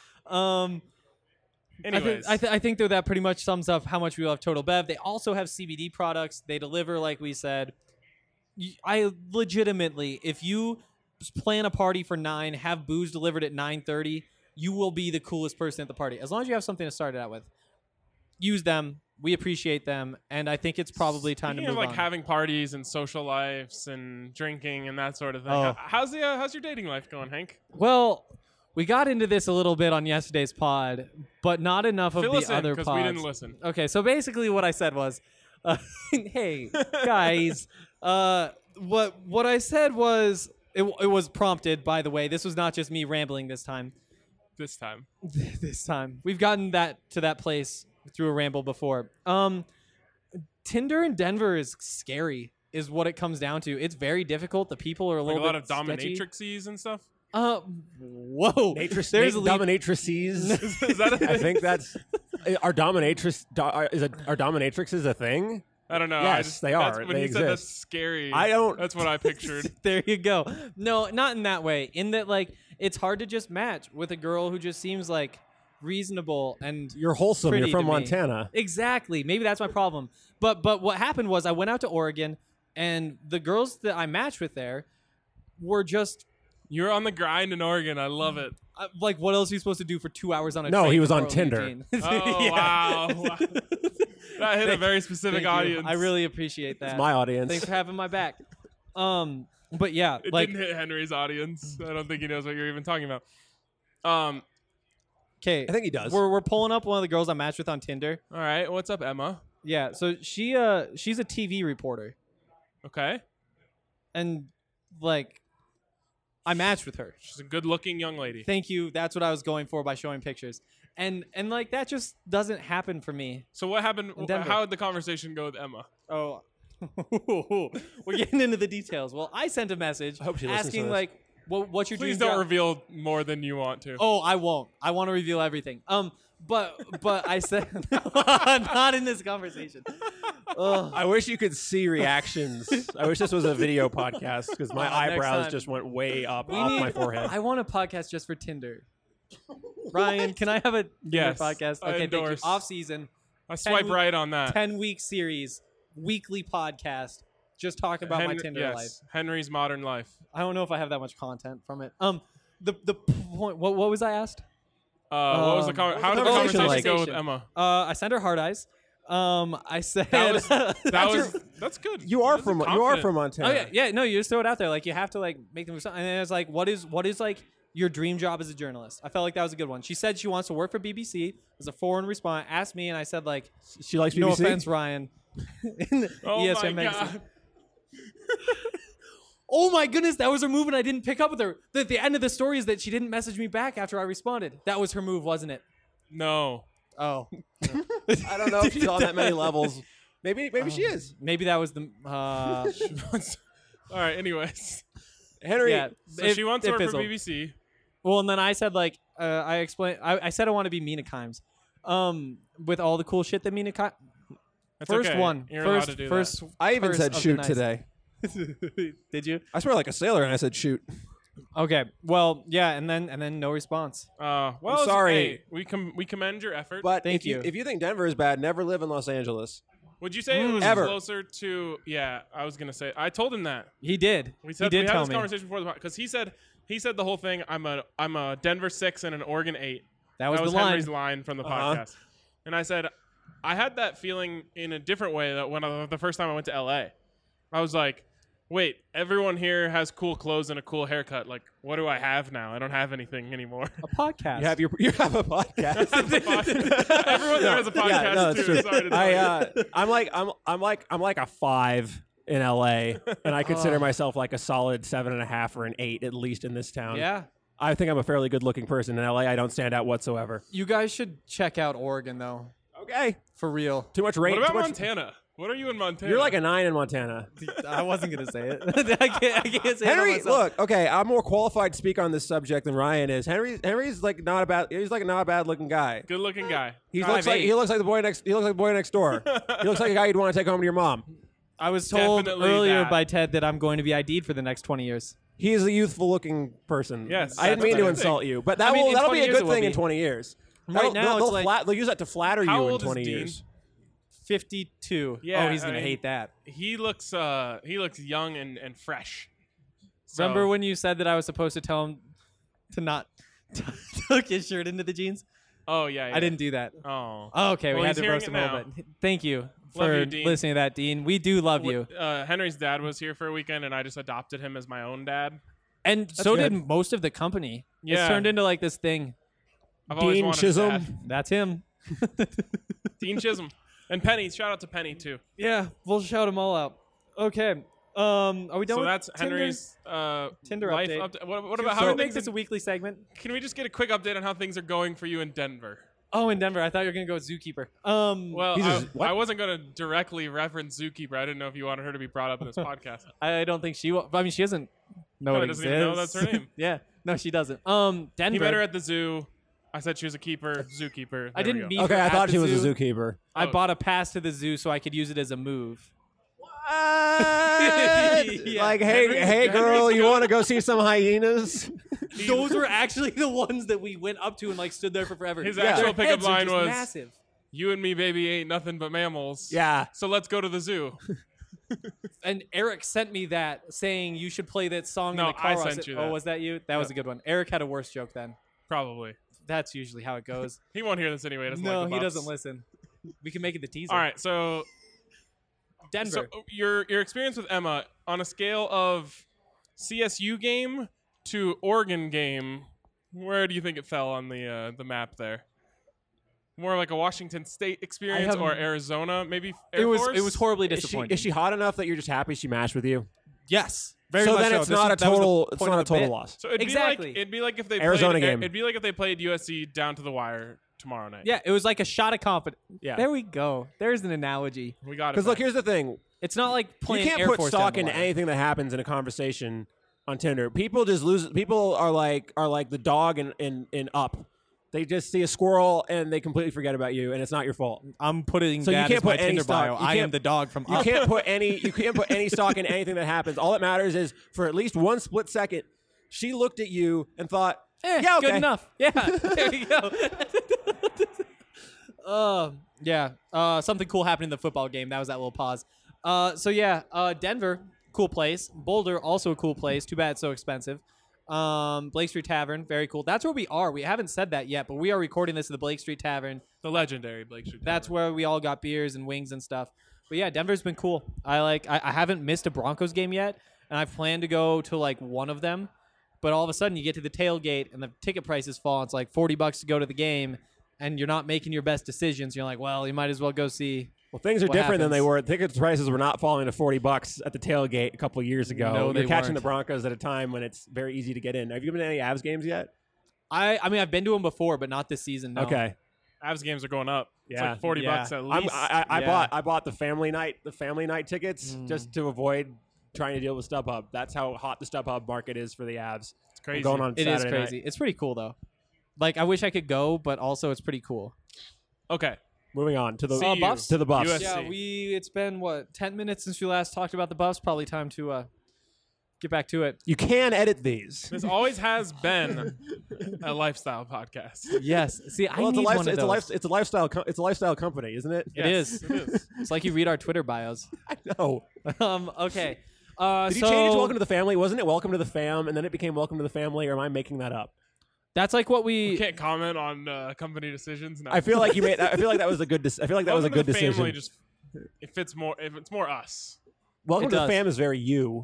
Anyways, I think though that pretty much sums up how much we love Total Bev. They also have CBD products. They deliver, like we said. I legitimately, if you plan a party for 9, have booze delivered at 9:30, you will be the coolest person at the party. As long as you have something to start it out with. Use them. We appreciate them, and I think it's probably time speaking to of move like on. having parties and social lives and drinking and that sort of thing. Oh. How's your dating life going, Hank? Well, we got into this a little bit on yesterday's pod, but not enough of Fill the us in other because pods. we didn't listen. Okay, so basically what I said was, hey, guys, what I said was, it was prompted, by the way. This was not just me rambling this time. This time, This time. We've gotten to that place through a ramble before. Tinder in Denver is scary, is what it comes down to. It's very difficult. The people are a like little a lot of bit sketchy. dominatrixes and stuff. Whoa. There's There's a leap. dominatrices. Is that a I think that's are dominatrixes a thing? I don't know. Yes, they that's- are. When They you said that's exist. scary, I don't- That's what I pictured. There you go. No, not in that way. In that, like, it's hard to just match with a girl who just seems like reasonable and You're wholesome. pretty You're from to me. Montana. Exactly. Maybe that's my problem. But what happened was I went out to Oregon, and the girls that I matched with there were just You're on the grind in Oregon. I love it. like, what else are you supposed to do for 2 hours on a No, train he was to on Portland, Tinder. Eugene? Oh Yeah. wow. That hit a very specific Thank you. audience. I really appreciate that. It's my audience. Thanks for having my back. But yeah, It like, didn't hit Henry's audience. I don't think he knows what you're even talking about. okay, I think he does. We're pulling up one of the girls I matched with on Tinder. All right. What's up, Emma? Yeah, so she's a TV reporter, Okay. and like, I matched with her. She's a good-looking young lady. Thank you. That's what I was going for by showing pictures, and like that just doesn't happen for me. So what happened? In Denver. How did the conversation go with Emma? Oh, we're getting into the details. Well, I sent a message I hope she listens to asking this. like, what's your Please dream don't job? reveal more than you want to. Oh, I won't. I want to reveal everything. But I said not in this conversation. Ugh. I wish you could see reactions. I wish this was a video podcast because my Next eyebrows time. just went way up We off need- my forehead. I want a podcast just for Tinder. Ryan, can I have a Tinder Yes, podcast? I Okay, thank you. endorse. Off season, I swipe week- right on that. 10-week series, weekly podcast. Just talk about my Henry- Tinder yes, life. Henry's modern life. I don't know if I have that much content from it. The point. What was I asked? What was the how did the conversation conversation like? go with Emma? I sent her hard eyes. I said That's good. You are That's from confident. Montana. Oh yeah. No, you just throw it out there. Like you have to like make them do something. And then it's like, what is like your dream job as a journalist. I felt like that was a good one. She said she wants to work for BBC. As a foreign response, asked me, and I said, like, She likes BBC. no offense, Ryan. In the Oh ESPN my magazine. god. Oh my goodness, that was her move, and I didn't pick up with her. The end of the story is that she didn't message me back after I responded. That was her move, wasn't it? No. Oh. I don't know if she's on that many levels. Maybe she is. Maybe that was the. All right. Anyways, Henry. Yeah. so she wants to work for fizzled. BBC. Well, and then I said, like, I explained. I said I want to be Mina Kimes. With all the cool shit that Mina Kimes. That's First okay. one. You're allowed to do first. that. I even first said of the shoot nice. today. Did you? I swear like a sailor, and I said shoot. Okay. Well, yeah, and then no response. Well, I'm sorry. Hey, we commend your effort. But Thank if you. you. If you think Denver is bad, never live in Los Angeles. Would you say it was Ever. closer to? Yeah, I was gonna say. I told him that. He did. We said he did we had tell this me. conversation before the because he said the whole thing. I'm a Denver 6 and an Oregon 8. That was the Henry's line. line from the Uh-huh. podcast. And I said I had that feeling in a different way that when the first time I went to LA, I was like, wait, everyone here has cool clothes and a cool haircut. Like, what do I have now? I don't have anything anymore. A podcast. You have a podcast. Everyone there has a podcast yeah, no, that's too. true. Sorry to tell you. I'm like a 5 in LA, and I consider myself like a solid 7.5 or an 8 at least in this town. Yeah. I think I'm a fairly good-looking person in LA. I don't stand out whatsoever. You guys should check out Oregon, though. Okay, For real. too much rain. What about too much, Montana? What are you in Montana? You're like a 9 in Montana. I wasn't going to say it. I can't say Henry, it myself. look, okay, I'm more qualified to speak on this subject than Ryan is. Henry's like not a bad. He's like not a bad-looking guy. good-looking guy. He looks like 5'8". the boy next. He looks like the boy next door. He looks like a guy you'd want to take home to your mom. I was told Definitely earlier that. by Ted that I'm going to be ID'd for the next 20 years. He is a youthful-looking person. Yes, I didn't that's mean a to good insult thing. you, but I mean, in that'll 20 be a years it good will thing in be. 20 years. Right now, they'll, it's like they'll use that to flatter How you in old is 20 Dean? years. 52. Yeah, oh, he's going I to mean, hate that. He looks young and fresh. So- Remember when you said that I was supposed to tell him to not tuck his shirt into the jeans? Oh yeah, I didn't do that. Oh. Oh, okay, Well, we had he's to roast hearing him it a little now. bit. Thank you Love for you, Dean. listening to that, Dean. We do love you. Henry's dad was here for a weekend, and I just adopted him as my own dad. And so good. did most of the company. It's Yeah. turned into like this thing. I've always Dean wanted a Chisholm. dad. That's him. Dean Chisholm. And Penny. Shout out to Penny too. Yeah, we'll shout them all out. Okay. Are we done So with that's Tinder? Henry's Tinder life update. update. What about So how it makes things? this a weekly segment. Can we just get a quick update on how things are going for you in Denver? Oh, in Denver. I thought you were gonna go with Zookeeper. Well, what? I wasn't going to directly reference Zookeeper. I didn't know if you wanted her to be brought up in this podcast. I don't think she will. I mean, she doesn't know Probably it doesn't even know that's her exists. name. Yeah. No, she doesn't. Denver. He met her at the zoo. I said she was a keeper. Zookeeper. I There we didn't go. meet Okay, her I at thought the she was zoo. a zookeeper. I Oh. bought a pass to the zoo so I could use it as a move. Yeah. Like, Henry's- hey, girl, Henry's you good. want to go see some hyenas? Those were actually the ones that we went up to and like stood there for forever. His Their actual pickup heads are line just was, massive. "You and me, baby, ain't nothing but mammals." Yeah. So let's go to the zoo. And Eric sent me that saying you should play that song No, in the car. I while sent sit- you Oh, that. was that you? That was a good one. Eric had a worse joke then. Probably. That's usually how it goes. He won't hear this anyway. He doesn't No, like the he Buffs. doesn't listen. We can make it the teaser. All right, so Denver. your experience with Emma on a scale of CSU game to Oregon game, where do you think it fell on the map there? More like a Washington State experience haven't- or Arizona, maybe Air it was Force? horribly Is disappointing. she hot enough that you're just happy she matched with you? Yes. Very so much then so. it's This not was- a that was the total. It's point not a of the total bit. loss. So it'd Exactly. be like if they Arizona played, game. It'd be like if they played USC down to the wire tomorrow night. Yeah, it was like a shot of confidence. Yeah. There we go. There's an analogy. We got it. Because look, back. here's the thing: It's not like playing you can't Air put Force stock down the into wire. anything that happens in a conversation on Tinder. People just lose. People are like the dog in Up. They just see a squirrel and they completely forget about you, and it's not your fault. I'm putting So you that can't as my put any Tinder stock- bio. you I am can't- the dog from You Up. can't put any stock in anything that happens. All that matters is for at least one split second, she looked at you and thought, "Yeah, okay, Good enough. Yeah. There you go. Yeah. Something cool happened in the football game. That was that little pause. So yeah, Denver, cool place. Boulder, also a cool place. Too bad it's so expensive. Blake Street Tavern, very cool. That's where we are. We haven't said that yet, but we are recording this at the Blake Street Tavern. the legendary Blake Street. That's where we all got beers and wings and stuff. But yeah, Denver's been cool. I haven't missed a Broncos game yet, and I plan to go to like one of them. but all of a sudden you get to the tailgate and the ticket prices fall. It's like $40 to go to the game, and you're not making your best decisions. You're like, well, you might as well go see. Well, things are what different than they happens. were. Ticket prices were not falling to $40 at the tailgate a couple of years ago. No, they You're catching weren't. the Broncos at a time when it's very easy to get in. Have you been to any Avs games yet? I mean, I've been to them before, but not this season. No. Okay. Avs games are going up. Yeah. It's like $40 Yeah. at least. I bought the family night tickets just to avoid trying to deal with StubHub. That's how hot the StubHub market is for the Avs. It's crazy. We're going on It is Saturday crazy. night. It's pretty cool though. Like I wish I could go, but also it's pretty cool. Okay. Moving on to the CU. Buffs? To the Buffs. USC. Yeah, it's been 10 minutes since we last talked about the Buffs. Probably time to get back to it. You can edit these. This always has been a lifestyle podcast. Yes. See, I Well, need one of those. it's a lifestyle company, isn't it? It is. It is. It's like you read our Twitter bios. No. Okay. Did you change Welcome to the Family? Wasn't it Welcome to the Fam, and then it became Welcome to the Family? Or am I making that up? That's like what We we. can't comment on company decisions. No. I feel like you made. I feel like that was a good. I feel like that was a Welcome good to the Family decision. just it fits more. If it's more us. Welcome It to the does. Fam is very you.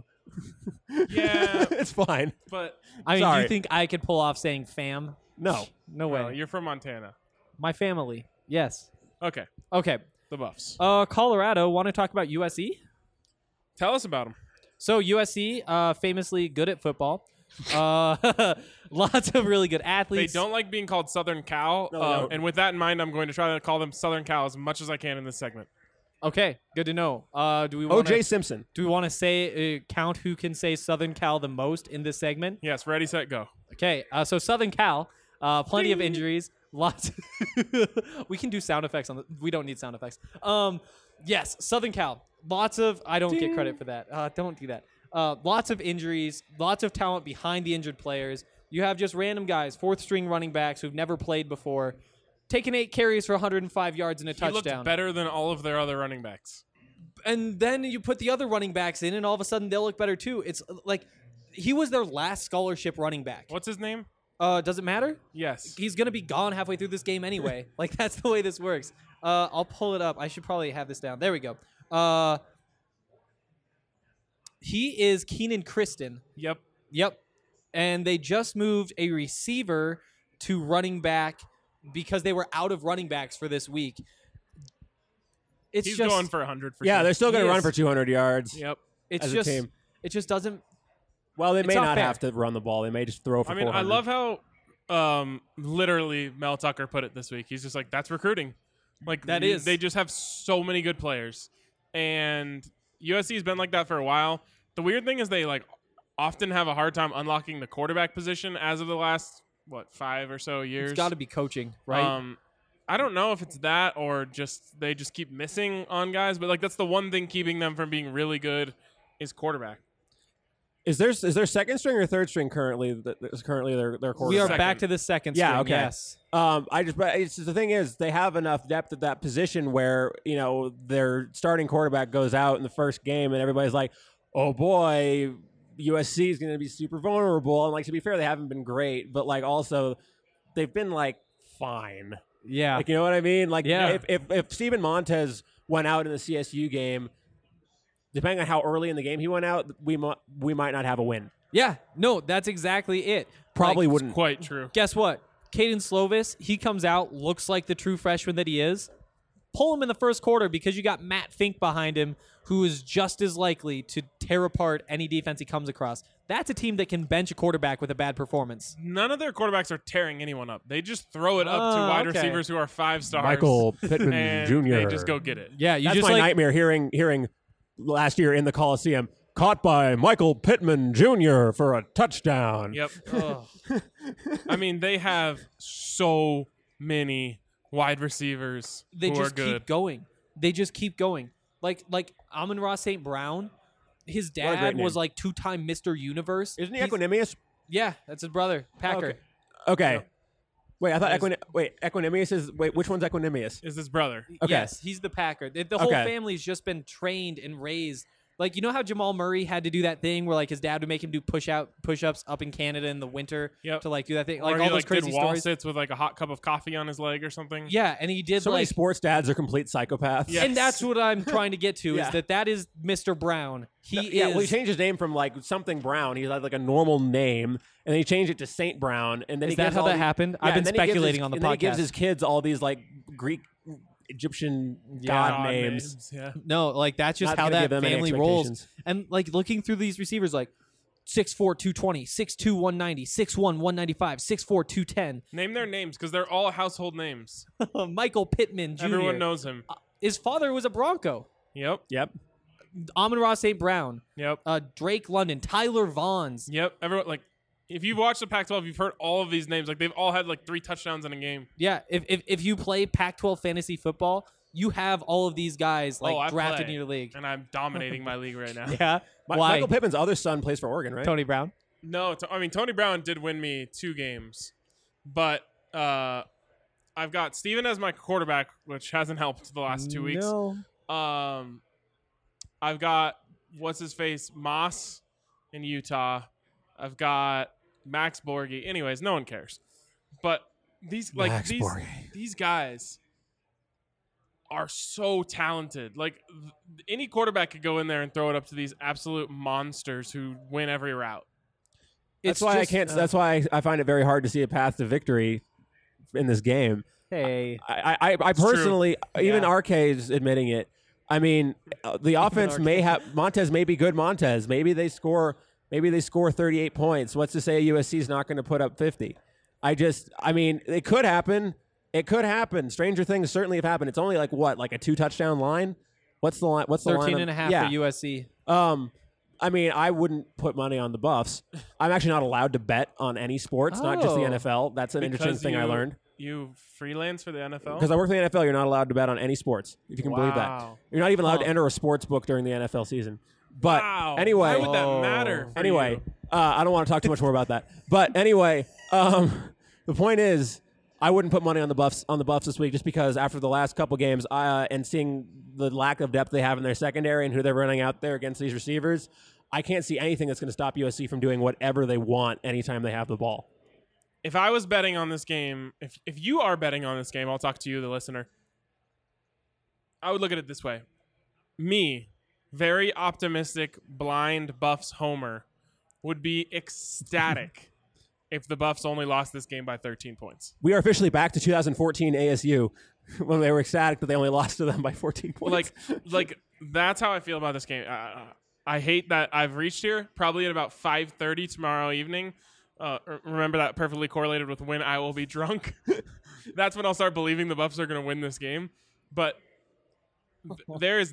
Yeah, It's fine. but I mean, do Sorry. you think I could pull off saying fam? No. No way. no, you're from Montana. My family. Yes. Okay, Okay. the Buffs. Colorado. Want to talk about USC? Tell us about them. So USC, famously good at football. Lots of really good They athletes. don't like being called Southern Cal, No, they don't. and with that in mind, I'm going to try to call them Southern Cal as much as I can in this segment. Okay, good to know. Do we want O.J. Simpson. Do we want to say count who can say Southern Cal the most in this segment? Yes, ready, set, go. Okay, so Southern Cal, plenty of injuries, lots. We can do sound effects on the. We don't need sound effects. Yes, Southern Cal, lots of. I don't get credit for that. Don't do that. Lots of injuries, lots of talent behind the injured players. You have just random guys, fourth string running backs who've never played before, taking 8 carries for 105 yards and a He touchdown. looked better than all of their other running backs. And then you put the other running backs in, and all of a sudden they'll look better too. It's like he was their last scholarship running back. What's his name? Does it matter? Yes. He's gonna be gone halfway through this game anyway. Like that's the way this works. I'll pull it up. I should probably have this down. There we go. He is Keenan Kristen. Yep. Yep. And they just moved a receiver to running back because they were out of running backs for this week. It's He's just going for 100 for Yeah, sure. they're still going to He run is. for 200 yards. Yep. it's as a just team. it just doesn't. Well, they It's may not not fair. have to run the ball. They may just throw for I mean, 400. I love how literally Mel Tucker put it this week. He's just like, that's recruiting. Like That is. They just have so many good players. And USC's been like that for a while. The weird thing is they like often have a hard time unlocking the quarterback position as of the last 5 or so years. It's got to be coaching, right? I don't know if it's that or just they just keep missing on guys, but like that's the one thing keeping them from being really good is quarterback. Is there second string or third string currently? That is currently their quarterback. we are second. back to the second Yeah, string. okay. Yes. But the thing is, they have enough depth at that position where their starting quarterback goes out in the first game, and everybody's like, "Oh boy, USC is going to be super vulnerable." And like to be fair, they haven't been great, but like also they've been like fine. Yeah. Like you know what I mean? Like Yeah. if Steven Montez went out in the CSU game, depending on how early in the game he went out, we might not have a win. Yeah. No, that's exactly it. Probably Like, wouldn't. Quite true. Guess what? Caden Slovis, he comes out, looks like the true freshman that he is. Pull him in the first quarter because you got Matt Fink behind him, who is just as likely to tear apart any defense he comes across. That's a team that can bench a quarterback with a bad performance. None of their quarterbacks are tearing anyone up. They just throw it up to Oh, wide okay. receivers who are 5 stars. Michael Pittman and Jr. They just go get it. Yeah, you That's just my like nightmare. Hearing last year in the Coliseum, caught by Michael Pittman Jr. for a touchdown. Yep. Ugh. I mean, they have so many wide receivers they who just are good. keep going. They just keep going. Like Amon-Ra St. Brown, his What a great dad name. was like 2-time Mr. Universe. Isn't he He's- Equanimous? Yeah, that's his brother, Packer. Okay. Yep. Wait, I thought Nice. Equanimous is. Wait, which one's Equanimous? Is his brother. Okay. Yes, he's the Packer. The whole Okay. family's just been trained and raised Like, you know how Jamal Murray had to do that thing where like his dad would make him do push-ups up in Canada in the winter to like do that thing, like or all he, those like, crazy did wall stories. sits with like a hot cup of coffee on his leg or something. Yeah, and he did So many like, sports dads are complete psychopaths. Yeah. and that's what I'm trying to get to Yeah. is that is Mr. Brown. He Yeah, is. well, he changed his name from like something Brown. He had like a normal name, and then he changed it to Saint Brown. And then Is he that gives how all that the- happened? Yeah, I've been and then he gives speculating his- on the and then he gives podcast. his kids all these like Greek, Egyptian god names. Yeah. No, like that's just Not how gonna that give them any family rolls. expectations. And like looking through these receivers, like 6'4", 220, 6'2", 190, 6'1", 195, 6'4", 210. Name their names because they're all household names. Michael Pittman Jr. Everyone knows him. His father was a Bronco. Yep. Yep. Amon-Ra St. Brown, Yep. Drake London, Tyler Vaughns. Yep. Everyone like. If you've watched the Pac-12, you've heard all of these names. Like they've all had like 3 touchdowns in a game. Yeah, if you play Pac-12 fantasy football, you have all of these guys like I drafted play, in your league. and I'm dominating my league right now. Yeah, why? Michael Pittman's other son plays for Oregon, right? Tony Brown. No, I mean Tony Brown did win me 2 games, but I've got Steven as my quarterback, which hasn't helped the last 2 weeks. No. I've got what's his face Moss in Utah. I've got Max Borghi. Anyways, no one cares. But these these guys are so talented. Like any quarterback could go in there and throw it up to these absolute monsters who win every route. That's why I can't. That's why I find it very hard to see a path to victory in this game. Hey, I personally, even RK is admitting it. I mean, the offense may have Montez may be good. Montez, maybe they score 38 points. What's to say USC is not going to put up 50? I mean, it could happen. It could happen. Stranger things certainly have happened. It's only like what, like a 2-touchdown line? What's the line? What's the 13 line? and a half for USC. I mean, I wouldn't put money on the Buffs. I'm actually not allowed to bet on any sports, not just the NFL. That's an interesting thing I learned. You freelance for the NFL? Because I work for the NFL, you're not allowed to bet on any sports, if you can believe that. Wow. You're not even allowed to enter a sports book during the NFL season. But Wow. anyway, Why would that matter? for anyway, you? I don't want to talk too much more about that. But anyway, the point is, I wouldn't put money on the Buffs this week just because after the last couple games and seeing the lack of depth they have in their secondary and who they're running out there against these receivers, I can't see anything that's going to stop USC from doing whatever they want anytime they have the ball. If I was betting on this game, if you are betting on this game, I'll talk to you, the listener. I would look at it this way. Me, very optimistic, blind Buffs homer, would be ecstatic if the Buffs only lost this game by 13 points. We are officially back to 2014 ASU when they were ecstatic that they only lost to them by 14 points. Like that's how I feel about this game. I hate that I've reached here probably at about 5:30 tomorrow evening. Remember that perfectly correlated with when I will be drunk. That's when I'll start believing the Buffs are going to win this game. But I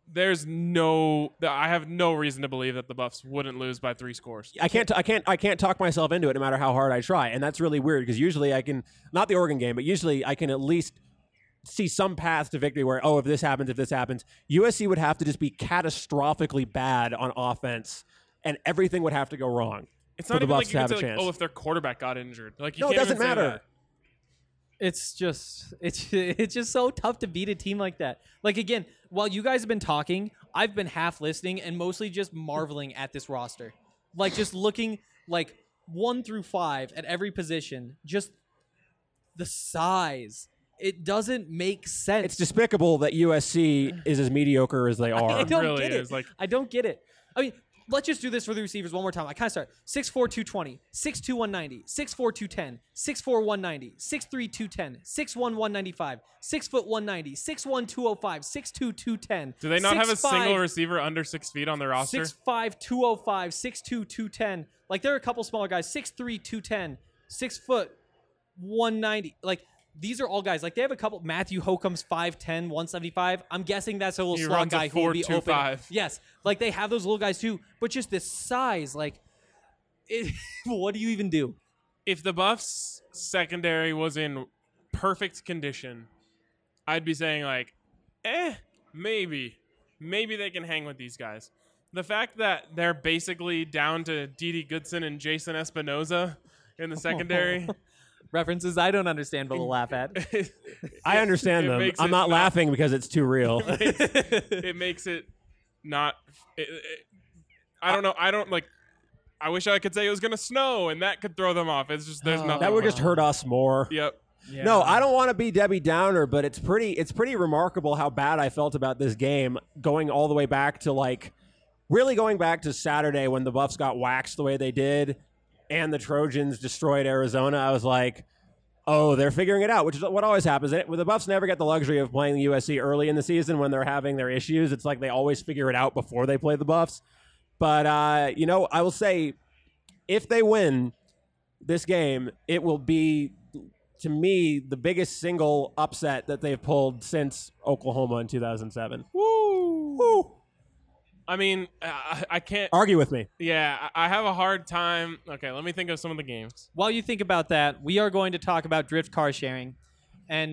have no reason to believe that the Buffs wouldn't lose by 3 scores. I can't talk myself into it no matter how hard I try, and that's really weird because usually I can, not the Oregon game, but usually I can at least see some path to victory where, if this happens, USC would have to just be catastrophically bad on offense, and everything would have to go wrong. It's for not the even Buffs like to you have can a say, chance. if their quarterback got injured. Like you No, it can't even doesn't say matter. that. It's just so tough to beat a team like that. Like again, while you guys have been talking, I've been half listening and mostly just marveling at this roster. Like just looking like 1 through 5 at every position, just the size. It doesn't make sense. It's despicable that USC is as mediocre as they I are. don't really get it. is, like- I don't get it. I mean, let's just do this for the receivers one more time. I kind of start 6'4", 220, 6'2", 190, 6'4", 210, 6'4", 190, 6'3", 210, 6'1", 195, 6 foot 190, 6'1", 205, 6'2", 210. Do they not have a 6'5", single receiver under 6 feet on their roster? 6'5", 205, 6'2", 210. Like there are a couple smaller guys, 6'3", 210, 6 foot 190. Like these are all guys. Like they have a couple. Matthew Hokum's 5'10", 175. I'm guessing that's a little He slot runs a guy who will be open. 4.25. Yes, like they have those little guys too. But just this size, like, what do you even do? If the Buffs secondary was in perfect condition, I'd be saying like, maybe they can hang with these guys. The fact that they're basically down to Dede Goodson and Jason Espinoza in the secondary. References I don't understand but will laugh at. I understand It them. makes I'm it not laughing because it's too real. it makes it not. I don't know. I don't like. I wish I could say it was going to snow and that could throw them off. It's just there's nothing. That would just hurt us more. Yep. Yeah. No, I don't want to be Debbie Downer, but it's pretty remarkable how bad I felt about this game, going all the way back to really going back to Saturday when the Buffs got waxed the way they did, and the Trojans destroyed Arizona. I was like, oh, they're figuring it out, which is what always happens. The Buffs never get the luxury of playing the USC early in the season when they're having their issues. It's like they always figure it out before they play the Buffs. But I will say, if they win this game, it will be, to me, the biggest single upset that they've pulled since Oklahoma in 2007. Woo! I mean, I can't argue with me. Yeah, I have a hard time. Okay, let me think of some of the games. While you think about that, we are going to talk about Drift car sharing. And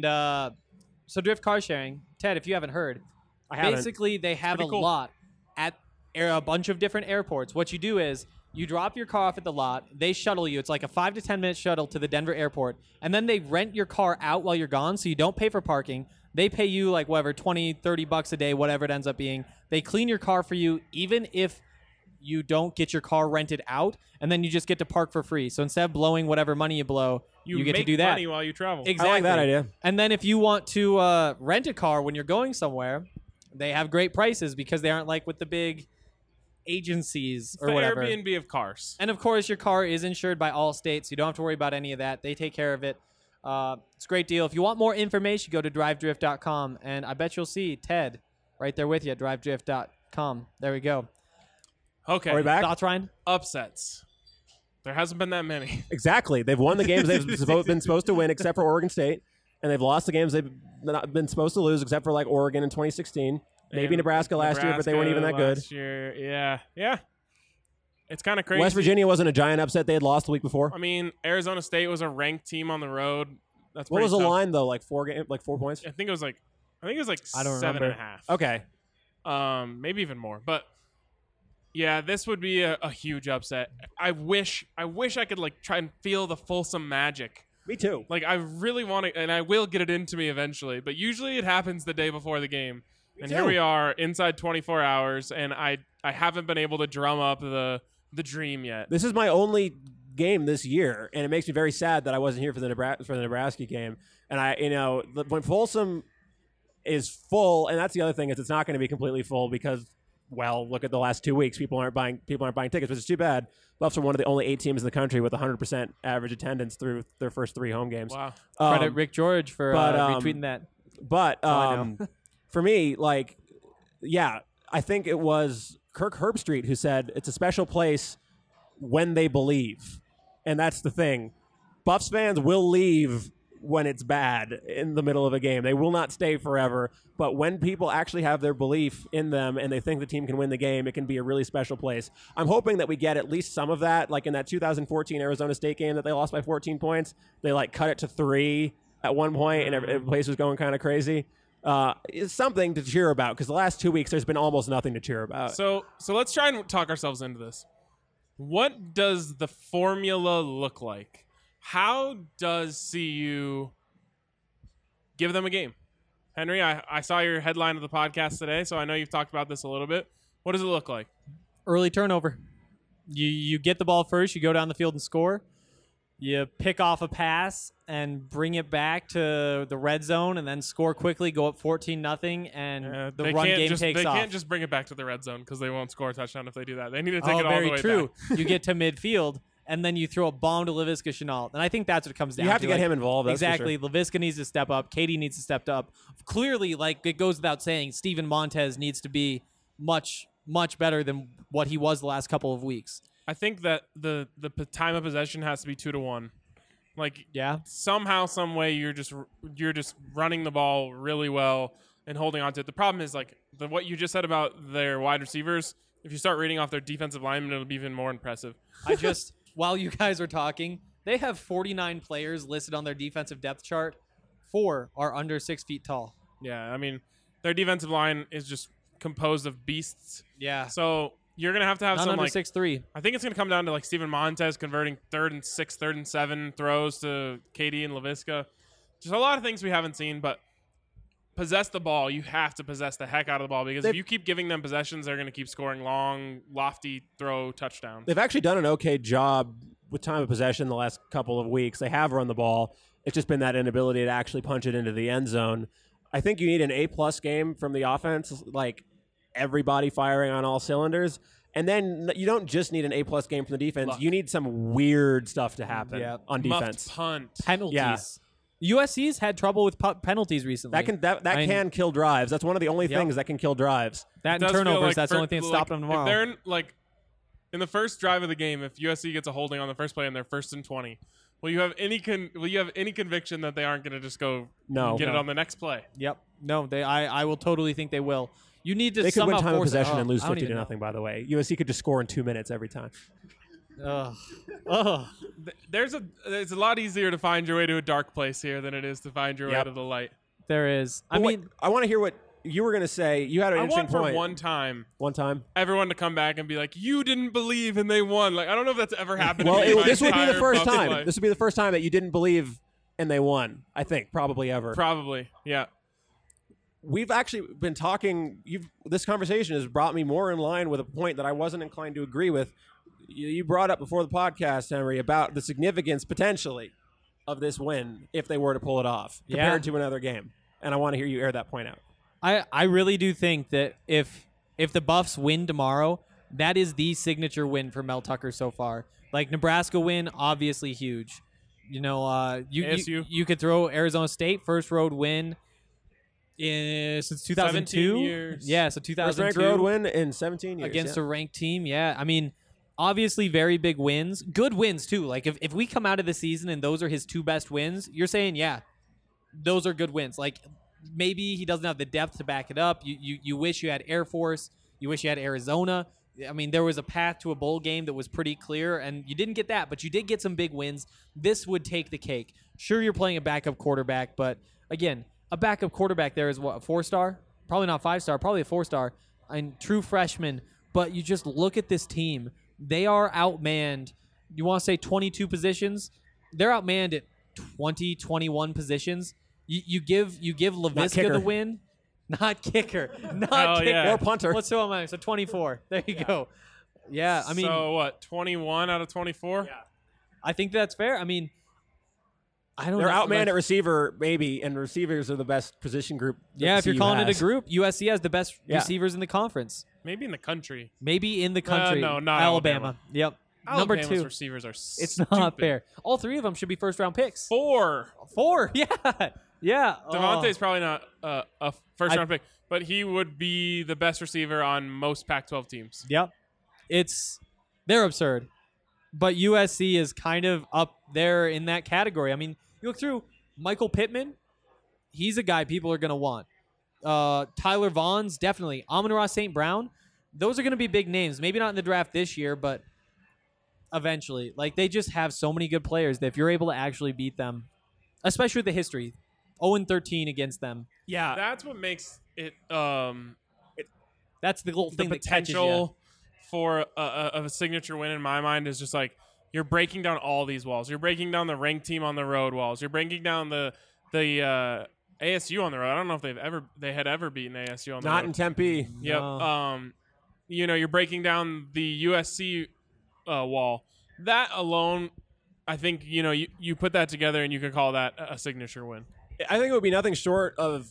so Drift car sharing, Ted, if you haven't heard, I haven't. basically they have a pretty cool. lot at a bunch of different airports. What you do is you drop your car off at the lot. They shuttle you. It's like a 5 to 10 minute shuttle to the Denver airport. And then they rent your car out while you're gone, so you don't pay for parking. They pay you like whatever, 20, 30 bucks a day, whatever it ends up being. They clean your car for you, even if you don't get your car rented out, and then you just get to park for free. So instead of blowing whatever money you blow, you get make to do that. money while you travel. Exactly. I like that idea. And then if you want to rent a car when you're going somewhere, they have great prices because they aren't like with the big agencies or the whatever. Airbnb of cars. And of course, your car is insured by Allstate, so you don't have to worry about any of that. They take care of it. It's a great deal. If you want more information, go to drivedrift.com, and I bet you'll see Ted right there with you at drivedrift.com. There we go. Okay. Are we back? Thoughts, Ryan? Upsets. There hasn't been that many. Exactly. They've won the games they've been supposed to win, except for Oregon State, and they've lost the games they've not been supposed to lose, except for like Oregon in 2016. Maybe And Nebraska last year, but they weren't even that good. last year, yeah. It's kind of crazy. West Virginia wasn't a giant upset. They had lost the week before. I mean, Arizona State was a ranked team on the road. That's What pretty was the tough. line though? Like 4 points. I think it was like I don't 7.5. Okay. Maybe even more. But yeah, this would be a huge upset. I wish I could like try and feel the Folsom magic. Me too. Like I really want to, and I will get it into me eventually. But usually it happens the day before the game. And here too. we are inside 24 hours, and I haven't been able to drum up the dream yet. This is my only game this year, and it makes me very sad that I wasn't here for the Nebraska game. And when Folsom is full, and that's the other thing is it's not going to be completely full because, well, look at the last 2 weeks. People aren't buying tickets, which is too bad. Buffs are one of the only 8 teams in the country with 100% average attendance through their first 3 home games. Wow. Credit Rick George for retweeting that. But I know. for me, I think it was Kirk Herbstreit who said it's a special place when they believe. And that's the thing. Buffs fans will leave when it's bad in the middle of a game. They will not stay forever. But when people actually have their belief in them and they think the team can win the game, it can be a really special place. I'm hoping that we get at least some of that. Like in that 2014 Arizona State game that they lost by 14 points, they cut it to 3 at one point and every place was going kind of crazy. It's something to cheer about because the last 2 weeks there's been almost nothing to cheer about. So let's try and talk ourselves into this. What does the formula look like? How does CU give them a game? Henry, I saw your headline of the podcast today, so I know you've talked about this a little bit. What does it look like? Early turnover. You get the ball first, you go down the field and score. You pick off a pass and bring it back to the red zone and then score quickly, go up 14-0, and the run game takes They off. can't just bring it back to the red zone because they won't score a touchdown if they do that. They need to take it all very the way true. back. You get to midfield, and then you throw a bomb to Laviska Shenault. And I think that's what it comes down to. You have to get him involved. That's for Exactly. Laviska needs to step up. Katie needs to step up. Clearly, it goes without saying, Steven Montez needs to be much, much better than what he was the last couple of weeks. I think that the time of possession has to be 2-1. Yeah. Somehow, some way, you're just running the ball really well and holding on to it. The problem is what you just said about their wide receivers. If you start reading off their defensive linemen, it'll be even more impressive. While you guys are talking, they have 49 players listed on their defensive depth chart. 4 are under 6 feet tall. Yeah, I mean, their defensive line is just composed of beasts. Yeah. So you're gonna have to have None some under 6'3". I think it's gonna come down to Steven Montez converting 3rd and 6, 3rd and 7 throws to KD and Laviska. Just a lot of things we haven't seen, but possess the ball, you have to possess the heck out of the ball because if you keep giving them possessions, they're going to keep scoring long, lofty throw touchdowns. They've actually done an okay job with time of possession the last couple of weeks. They have run the ball. It's just been that inability to actually punch it into the end zone. I think you need an A-plus game from the offense, like everybody firing on all cylinders. And then you don't just need an A-plus game from the defense. Luck. You need some weird stuff to happen on Muffed defense. punt. Penalties. Yeah. USC's had trouble with penalties recently. That can kill drives. That's one of the only things that can kill drives. That It and does feel turnovers. like That's the only thing that's stopping them tomorrow. If they're in the first drive of the game, if USC gets a holding on the first play and they're 1st and 20, will you have any conviction that they aren't going to just go get it on the next play? Yep. No, I will totally think they will. You need to They could win somehow time of force it. possession and lose I don't 50 to even know. nothing, by the way. USC could just score in 2 minutes every time. There's a lot easier to find your way to a dark place here than it is to find your way to the light. There is. I But mean, I want to hear what you were going to say. You had an I interesting want for point. one time One time? everyone to come back and be like, you didn't believe and they won. Like, I don't know if that's ever happened. Well, to me in my this would be the entire first Buffs time. life. This would be the first time that you didn't believe and they won. I think probably ever. Probably, yeah. We've actually been talking. This conversation has brought me more in line with a point that I wasn't inclined to agree with. You brought up before the podcast, Henry, about the significance potentially of this win if they were to pull it off compared to another game. And I want to hear you air that point out. I really do think that if the Buffs win tomorrow, that is the signature win for Mel Tucker so far. Like Nebraska win, obviously huge. You know, you could throw Arizona State first road win since 2002. 17 years. Yeah, so 2002. First ranked road win in 17 years. Against a ranked team, yeah. I mean, obviously very big wins. Good wins, too. Like, if we come out of the season and those are his 2 best wins, you're saying, yeah, those are good wins. Like, maybe he doesn't have the depth to back it up. You wish you had Air Force. You wish you had Arizona. I mean, there was a path to a bowl game that was pretty clear, and you didn't get that, but you did get some big wins. This would take the cake. Sure, you're playing a backup quarterback, but, again, a backup quarterback there is what, a 4-star? Probably not 5-star, probably a 4-star. And true freshman. But you just look at this team. They are outmanned. You want to say 22 positions? They're outmanned at 20, 21 positions. You give LaVisca the win. Not kicker. Not kicker. Yeah. Or punter. What's so am I? So 24. There you go. Yeah, I mean. So what? 21 out of 24. Yeah. I think that's fair. I mean, I don't They're know. outmanned at receiver, maybe, and receivers are the best position group. that Yeah, if you're CU calling it has. a group, USC has the best receivers in the conference. Maybe in the country. Maybe in the country. No, not Alabama. Yep. Alabama's Number 2. receivers are It's not fair. All 3 of them should be first-round picks. 4. 4. Yeah. Yeah. Devontae's probably not a first-round pick, but he would be the best receiver on most Pac-12 teams. Yep. They're absurd. But USC is kind of up there in that category. I mean, you look through Michael Pittman, he's a guy people are going to want. Tyler Vaughn's definitely. Amon-Ra St. Brown, those are going to be big names. Maybe not in the draft this year, but eventually. Like, they just have so many good players that if you're able to actually beat them, especially with the history, 0-13 against them. Yeah. That's what makes it That's the little the thing that catches you. potential for a signature win in my mind is just like you're breaking down all these walls. You're breaking down the ranked team on the road walls. You're breaking down the ASU on the road. I don't know if they had ever beaten ASU on the road. Not in Tempe. Yep. No. You're breaking down the USC wall. That alone, I think, you put that together and you could call that a signature win. I think it would be nothing short of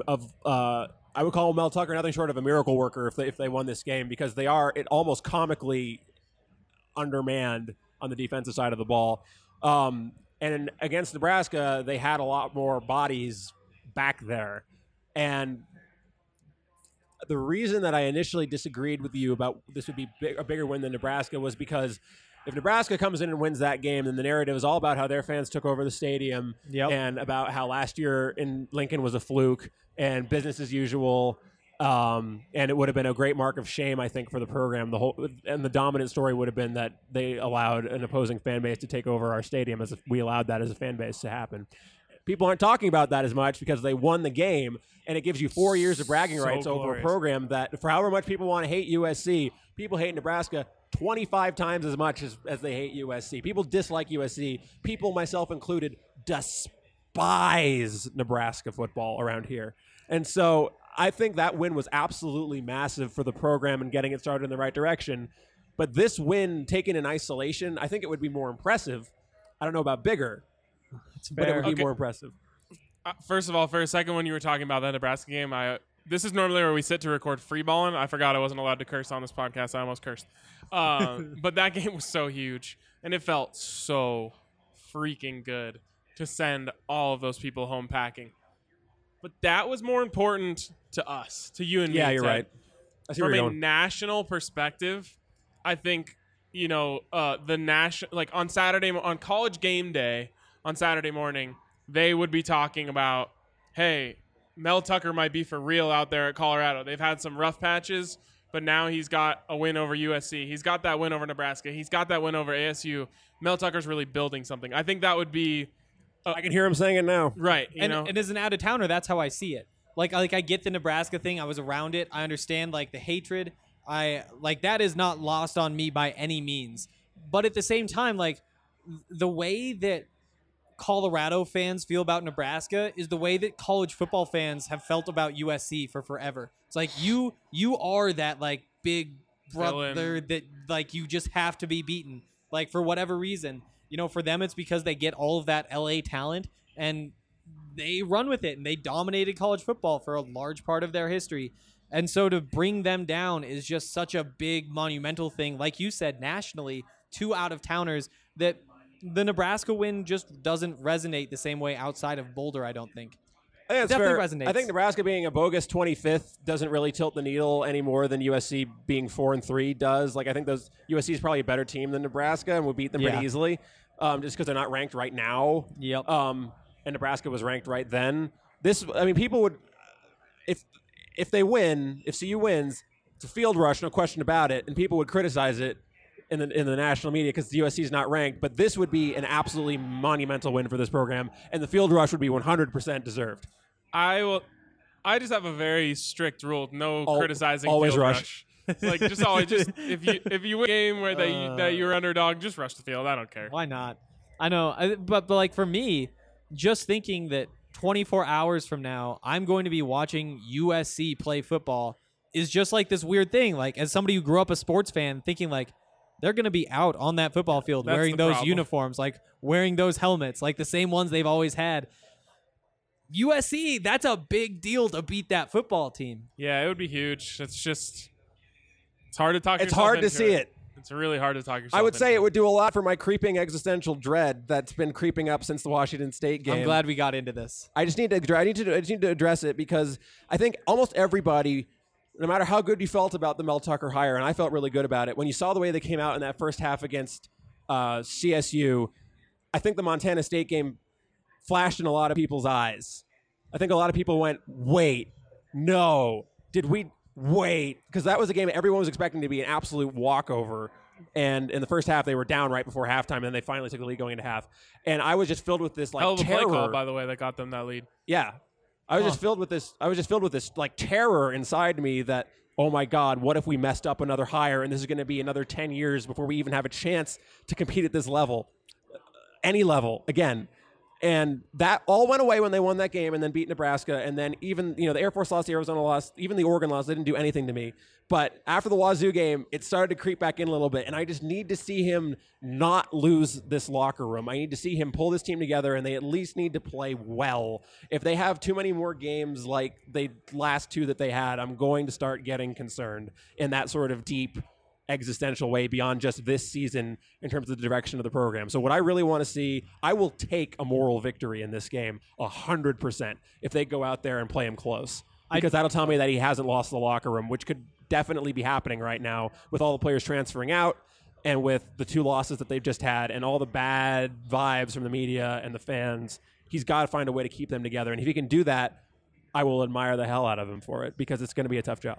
I would call Mel Tucker nothing short of a miracle worker if they won this game, because they are almost comically undermanned on the defensive side of the ball. And against Nebraska, they had a lot more bodies back there. And the reason that I initially disagreed with you about this would be a bigger win than Nebraska was because if Nebraska comes in and wins that game, then the narrative is all about how their fans took over the stadium and about how last year in Lincoln was a fluke and business as usual. And it would have been a great mark of shame, I think, for the program. The dominant story would have been that they allowed an opposing fan base to take over our stadium, as if we allowed that as a fan base to happen. People aren't talking about that as much because they won the game, and it gives you 4 years of bragging rights over a program that, for however much people want to hate USC, people hate Nebraska 25 times as much as they hate USC. People dislike USC. People, myself included, despise Nebraska football around here. And so I think that win was absolutely massive for the program and getting it started in the right direction. But this win taken in isolation, I think it would be more impressive. I don't know about bigger, but it would be Okay. more impressive. First of all, for a second when you were talking about that Nebraska game, this is normally where we sit to record free balling. I forgot I wasn't allowed to curse on this podcast. I almost cursed. But that game was so huge, and it felt so freaking good to send all of those people home packing. But that was more important to us, to you and me. Yeah, you're Ted. right. I see where From you're a going. national perspective, I think, the national, like on Saturday, on college game day, on Saturday morning, they would be talking about, hey, Mel Tucker might be for real out there at Colorado. They've had some rough patches, but now he's got a win over USC. He's got that win over Nebraska. He's got that win over ASU. Mel Tucker's really building something. I think that would be I can hear him saying it now. right. And as an out-of-towner, that's how I see it. Like I get the Nebraska thing. I was around it. I understand like the hatred. That is not lost on me by any means. But at the same time, like the way that Colorado fans feel about Nebraska is the way that college football fans have felt about USC for forever. It's like you are that like big brother Villain. that like you just have to be beaten. Like for whatever reason, for them it's because they get all of that LA talent and they run with it and they dominated college football for a large part of their history. And so to bring them down is just such a big monumental thing. Like you said, nationally, 2 out-of-towners that the Nebraska win just doesn't resonate the same way outside of Boulder, I don't think. I think that's Definitely fair. resonates. I think Nebraska being a bogus 25th doesn't really tilt the needle any more than USC being 4-3 does. Like I think USC is probably a better team than Nebraska and would beat them Yeah. pretty easily, just because they're not ranked right now. Yep. And Nebraska was ranked right then. People would, if they win, if CU wins, it's a field rush, no question about it, and people would criticize it in the national media because the USC is not ranked. But this would be an absolutely monumental win for this program, and the field rush would be 100% deserved. I just have a very strict rule: no criticizing. Always field rush. Like just always if you win a game where that you're underdog, just rush the field. I don't care. Why not? I know, but like for me, just thinking that 24 hours from now, I'm going to be watching USC play football is just like this weird thing. Like as somebody who grew up a sports fan, thinking like they're going to be out on that football field That's wearing the those problem. uniforms, like wearing those helmets, like the same ones they've always had. USC, that's a big deal to beat that football team. Yeah, it would be huge. It's hard to talk. It's yourself hard to into see it. It's really hard to talk yourself. I would say into it would do a lot for my creeping existential dread that's been creeping up since the Washington State game. I'm glad we got into this. I just need to address it because I think almost everybody, no matter how good you felt about the Mel Tucker hire, and I felt really good about it, when you saw the way they came out in that first half against CSU, I think the Montana State game flashed in a lot of people's eyes. I think a lot of people went, wait, no, did we wait? Because that was a game everyone was expecting to be an absolute walkover. And in the first half, they were down right before halftime, and then they finally took the lead going into half. And I was just filled with this like hell of a play terror. call, by the way, that got them that lead. Yeah. I was just filled with this like terror inside me that, oh my God, what if we messed up another hire and this is going to be another 10 years before we even have a chance to compete at this level, any level again. And that all went away when they won that game and then beat Nebraska. And then even, the Air Force lost, the Arizona lost, even the Oregon lost. They didn't do anything to me. But after the Wazoo game, it started to creep back in a little bit. And I just need to see him not lose this locker room. I need to see him pull this team together, and they at least need to play well. If they have too many more games like the last 2 that they had, I'm going to start getting concerned in that sort of deep existential way beyond just this season in terms of the direction of the program. So what I really want to see, I will take a moral victory in this game 100% if they go out there and play him close. Because that'll tell me that he hasn't lost the locker room, which could definitely be happening right now with all the players transferring out and with the 2 losses that they've just had and all the bad vibes from the media and the fans. He's got to find a way to keep them together. And if he can do that, I will admire the hell out of him for it because it's going to be a tough job.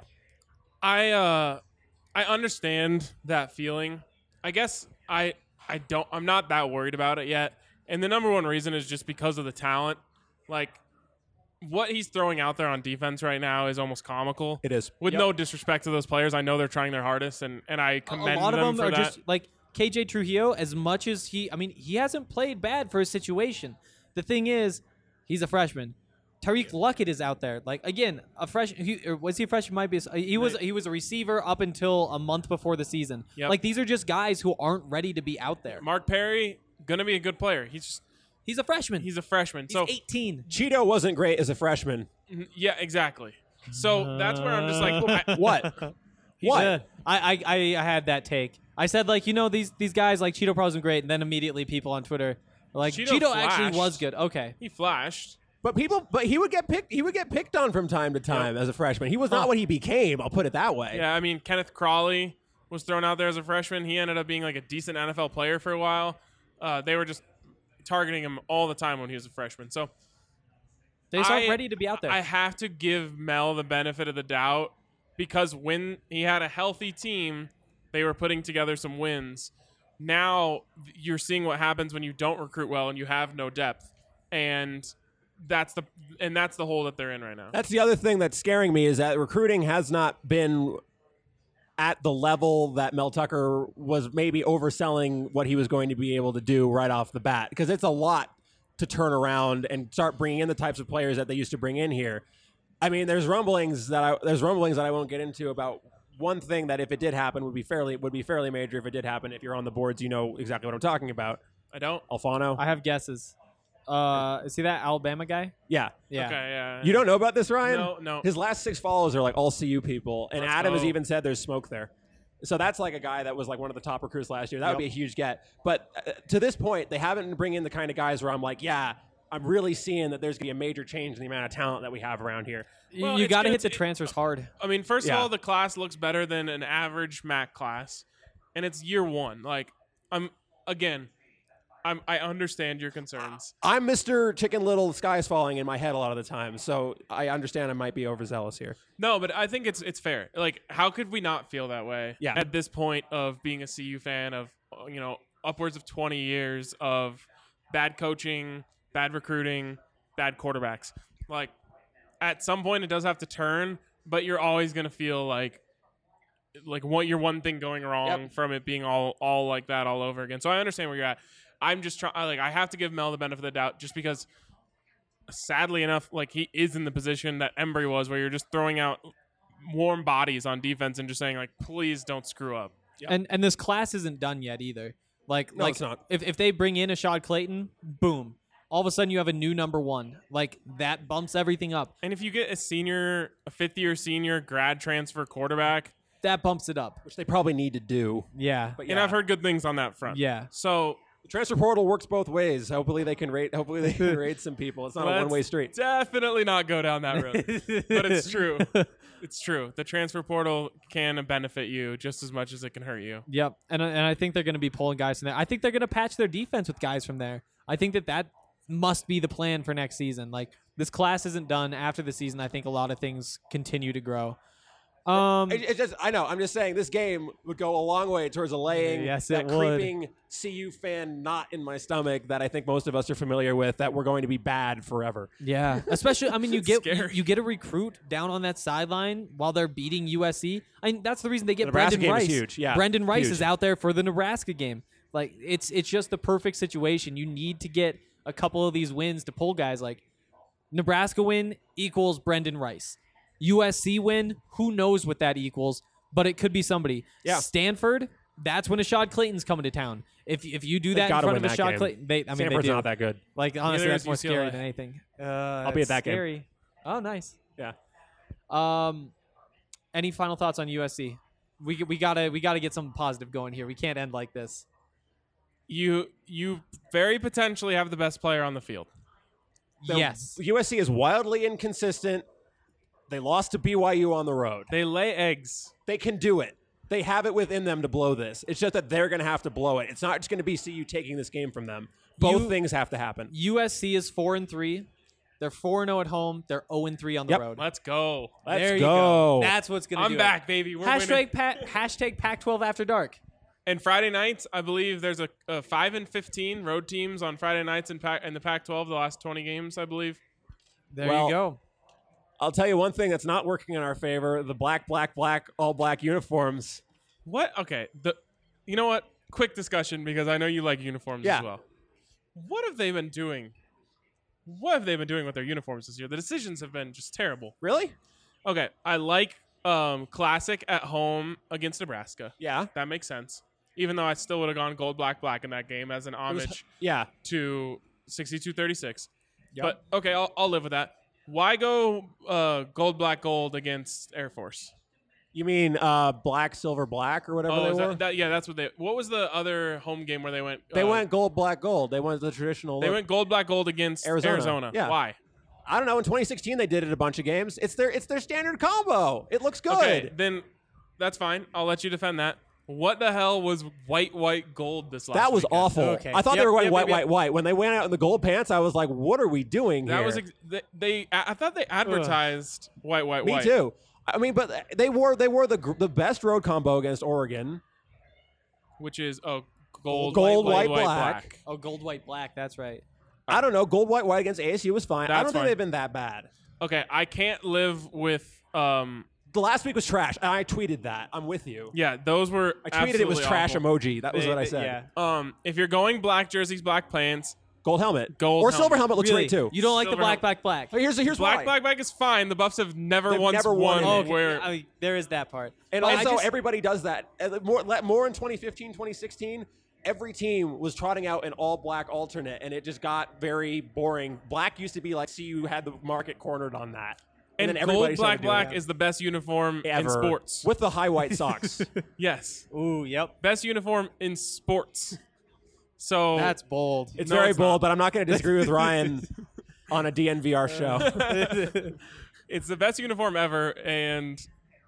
I understand that feeling. I guess I'm not that worried about it yet. And the number one reason is just because of the talent. Like, what he's throwing out there on defense right now is almost comical. It is. With Yep. no disrespect to those players. I know they're trying their hardest, and I commend A lot of them for are that. just like KJ Trujillo. As much as he hasn't played bad for his situation. The thing is, he's a freshman. Tariq Luckett is out there. Like again, was he a freshman? Might be. He was a receiver up until a month before the season. Yep. Like these are just guys who aren't ready to be out there. Mark Perry gonna be a good player. He's a freshman. He's a freshman. He's so 18. Cheeto wasn't great as a freshman. yeah, exactly. So that's where I'm just like, What? What? I had that take. I said like these guys like Cheeto wasn't great, and then immediately people on Twitter were like Cheeto actually flashed. was good. Okay. he flashed. But he would get picked. He would get picked on from time to time as a freshman. He was not what he became. I'll put it that way. Yeah, I mean, Kenneth Crawley was thrown out there as a freshman. He ended up being like a decent NFL player for a while. They were just targeting him all the time when he was a freshman. So They just aren't ready to be out there. I have to give Mel the benefit of the doubt because when he had a healthy team, they were putting together some wins. Now you're seeing what happens when you don't recruit well and you have no depth. And that's the hole that they're in right now. That's the other thing that's scaring me is that recruiting has not been at the level that Mel Tucker was maybe overselling what he was going to be able to do right off the bat, because it's a lot to turn around and start bringing in the types of players that they used to bring in here. I mean, there's rumblings that I won't get into about one thing that if it did happen would be fairly major if it did happen. If you're on the boards, you know exactly what I'm talking about. I don't. Alfano. I have guesses. Is he that Alabama guy? Yeah. Yeah. Okay, yeah. You don't know about this, Ryan? No. His last 6 follows are like all CU people, and Let's Adam has go. even said there's smoke there. So that's like a guy that was like one of the top recruits last year. That would be a huge get. But to this point, they haven't bring in the kind of guys where I'm like, yeah, I'm really seeing that there's going to be a major change in the amount of talent that we have around here. Well, You it's got to gonna hit the t- transfers hard. I mean, first of Yeah. all, the class looks better than an average MAC class, and it's year one. Like, I understand your concerns. I'm Mr. Chicken Little, the sky is falling in my head a lot of the time, so I understand I might be overzealous here. No, but I think it's fair. Like, how could we not feel that way? Yeah. At this point of being a CU fan of upwards of 20 years of bad coaching, bad recruiting, bad quarterbacks. Like, at some point it does have to turn, but you're always gonna feel like what your one thing going wrong from it being all like that all over again. So I understand where you're at. I'm just trying. I have to give Mel the benefit of the doubt, just because, sadly enough, like he is in the position that Embry was, where you're just throwing out warm bodies on defense and just saying like, please don't screw up. And this class isn't done yet either. No, it's not. If they bring in Ashad Clayton, boom. All of a sudden you have a new number one. Like that bumps everything up. And if you get a fifth-year senior grad transfer quarterback, That bumps it up. Which they probably need to do. Yeah. But and I've heard good things on that front. Yeah. So the transfer portal works both ways. Hopefully they can rate some people. It's not a let's one-way street. Definitely not go down that road. But it's true. It's true. The transfer portal can benefit you just as much as it can hurt you. Yep. And I think they're going to be pulling guys from there. I think they're going to patch their defense with guys from there. I think that must be the plan for next season. Like this class isn't done after the season. I think a lot of things continue to grow. It's just, I know. I'm just saying this game would go a long way towards allaying Yes, that it would. creeping CU fan knot in my stomach that I think most of us are familiar with, that we're going to be bad forever. Yeah, especially I mean you get scary. you get a recruit down on that sideline while they're beating USC. I mean that's the reason they get The Nebraska Brendan game is Rice. huge, yeah, Brendan Rice huge. is out there for the Nebraska game. Like it's just the perfect situation. You need to get a couple of these wins to pull guys. Like Nebraska win equals Brendan Rice. USC win, who knows what that equals, but it could be somebody. Yeah. Stanford, that's when Ashad Clayton's coming to town. If you do that in gotta front of win that Ashad game. Clayton, they Stanford's do. not that good. Like honestly, Neither that's is more scary UCLA. than anything. I'll be at that game. scary. Oh, nice. Yeah. Any final thoughts on USC? We gotta get something positive going here. We can't end like this. You very potentially have the best player on the field. Yes. USC is wildly inconsistent. They lost to BYU on the road. They lay eggs. They can do it. They have it within them to blow this. It's just that they're going to have to blow it. It's not just going to be CU taking this game from them. Both things have to happen. USC is 4-3. They're 4-0 at home. They're 0-3 on the Yep. road. Let's go. There you go. That's what's gonna do I'm back, baby. We're winning. hashtag Pac-12 after dark. And Friday nights, I believe there's a 5-15 road teams on Friday nights in the Pac-12. The last 20 games, I believe. There Well, you go. I'll tell you one thing that's not working in our favor: the black, all black uniforms. What? Okay. You know what? Quick discussion because I know you like uniforms Yeah. as well. What have they been doing what have they been doing with their uniforms this year? The decisions have been just terrible. Really? Okay, I like Classic at home against Nebraska. Yeah. That makes sense. Even though I still would have gone gold, black, black in that game as an homage to 62-36. Yep. But, okay, I'll live with that. Why go gold, black, gold against Air Force? You mean black, silver, black, or whatever they were? That's what they. What was the other home game where they went? They went gold, black, gold. They went the traditional. They went gold, black, gold against Arizona. Yeah. Why? I don't know. In 2016, they did it a bunch of games. It's their standard combo. It looks good. Okay, then that's fine. I'll let you defend that. What the hell was white, gold this last That was weekend? awful. Okay. I thought they were going white. When they went out in the gold pants, I was like, what are we doing That here? was I thought they advertised white. Me too. I mean, but they wore the best road combo against Oregon. Which is gold, white, black. Oh, gold, white, black. That's right. I don't know. Gold, white against ASU was fine. I don't think fine. they've been that bad. Okay, I can't live with The last week was trash. And I tweeted that. I'm with you. Yeah, those were. I tweeted it was trash awful. emoji. That was what I said. Yeah. If you're going black jerseys, black pants, Gold helmet. Gold or helmet. silver helmet looks Really? great too. You don't like the Silver black, helmet. black. Here's black, why. black is fine. The Buffs have never They've once never won won. it. Where I mean, there is that part. And But I also, just- everybody does that. More in 2015, 2016, every team was trotting out an all-black alternate, and it just got very boring. Black used to be like, see, you had the market cornered on that. and then everybody gold, black, started doing black that. is the best uniform Ever. in sports. With the high white socks. Yes, Ooh, yep. best uniform in sports. So That's bold. It's No, very it's bold, not. but I'm not going to disagree with Ryan on a DNVR show. it's the best uniform ever, and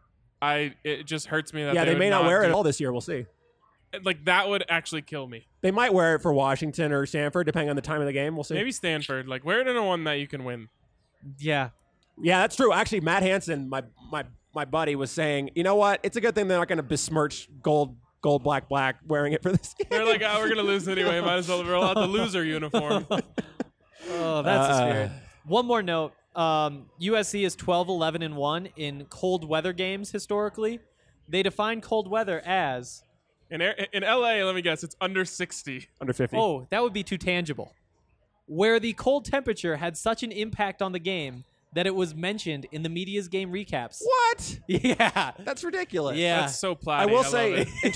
it just hurts me that Yeah, they would may not wear it do- at all this year. We'll see. Like that would actually kill me. They might wear it for Washington or Stanford, depending on the time of the game. We'll see. Maybe Stanford. Like wear it in a one that you can win. Yeah. Yeah, that's true. Actually, Matt Hansen, my buddy, was saying, you know what? It's a good thing they're not going to besmirch gold, black, wearing it for this game. They're like, we're gonna lose anyway. Might as well roll out the loser uniform. Oh, that's the spirit. One more note. USC is 12-11-1 in cold weather games historically. They define cold weather as In LA, let me guess, it's under 60. Under 50. oh, that would be too tangible. Where the cold temperature had such an impact on the game that it was mentioned in the media's game recaps. What? Yeah. That's ridiculous. Yeah. That's so platy. I will love say, it. in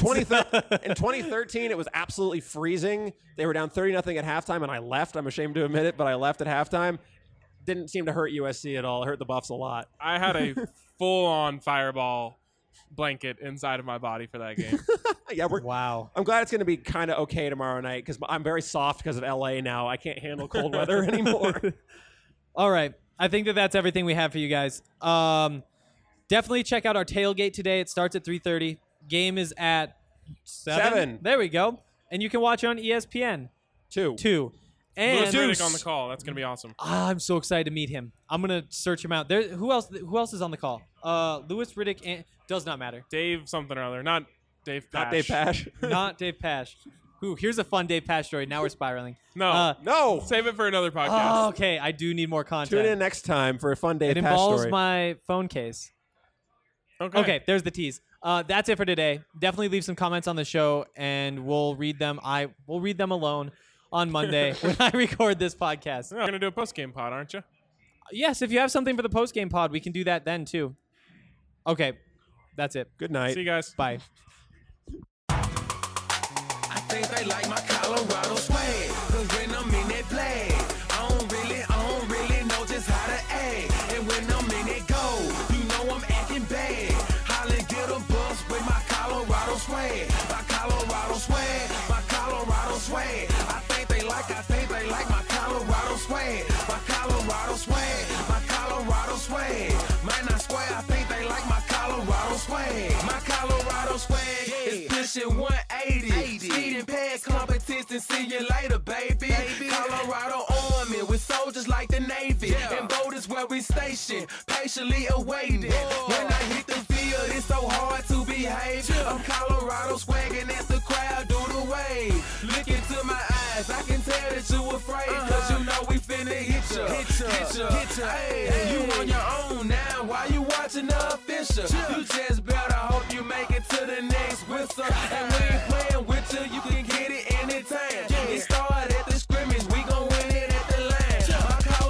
2013, it was absolutely freezing. They were down 30-0 at halftime, and I left. I'm ashamed to admit it, but I left at halftime. Didn't seem to hurt USC at all. It hurt the Buffs a lot. I had a full-on fireball blanket inside of my body for that game. Yeah, Wow. I'm glad it's going to be kind of okay tomorrow night because I'm very soft because of LA now. I can't handle cold weather anymore. All right. I think that's everything we have for you guys. Definitely check out our tailgate today. It starts at 3:30. Game is at 7. There we go. And you can watch it on ESPN 2. 2. And Lewis Riddick on the call. That's going to be awesome. I'm so excited to meet him. I'm gonna search him out. There. Who else is on the call? Lewis Riddick and does not matter. Dave something or other. Not Dave Pash. Not Dave Pash. Not Dave Pash. Ooh, here's a fun Dave Pash story. Now we're spiraling. No. No. Save it for another podcast. Oh, okay. I do need more content. Tune in next time for a fun Dave It Pash involves story. my phone case. Okay. Okay, there's the tease. That's it for today. Definitely leave some comments on the show, and we'll read them. We'll read them alone on Monday when I record this podcast. You're going to do a post-game pod, aren't you? Yes, if you have something for the post-game pod, we can do that then, too. Okay, that's it. Good night. See you guys. Bye. I think they like my Colorado swag. Cause when I'm in that flag, I don't really know just how to act. And when I'm in that goal, you know I'm acting bad. Holly get a bus with my Colorado swag. My Colorado swag, my Colorado swag. I think they like my Colorado swag. My Colorado swag, my Colorado swag. Might not swear, I think they like my Colorado swag. My Colorado swag is pushing 180. Speeding past competition, see you later, baby. Colorado Army with soldiers like the Navy. And voters where we stationed, patiently awaiting. When I hit the field, it's so hard to behave. I'm Colorado swagging as the crowd do the wave. Look into my eyes, I can tell that you afraid. Cause you know we finna hit ya. Hey, you on your own now, why you watching the official? You just better hope you make it to the next whistle. And we ain't playing with you, you can get it anytime. It started at the scrimmage, we gon' win it at the line. My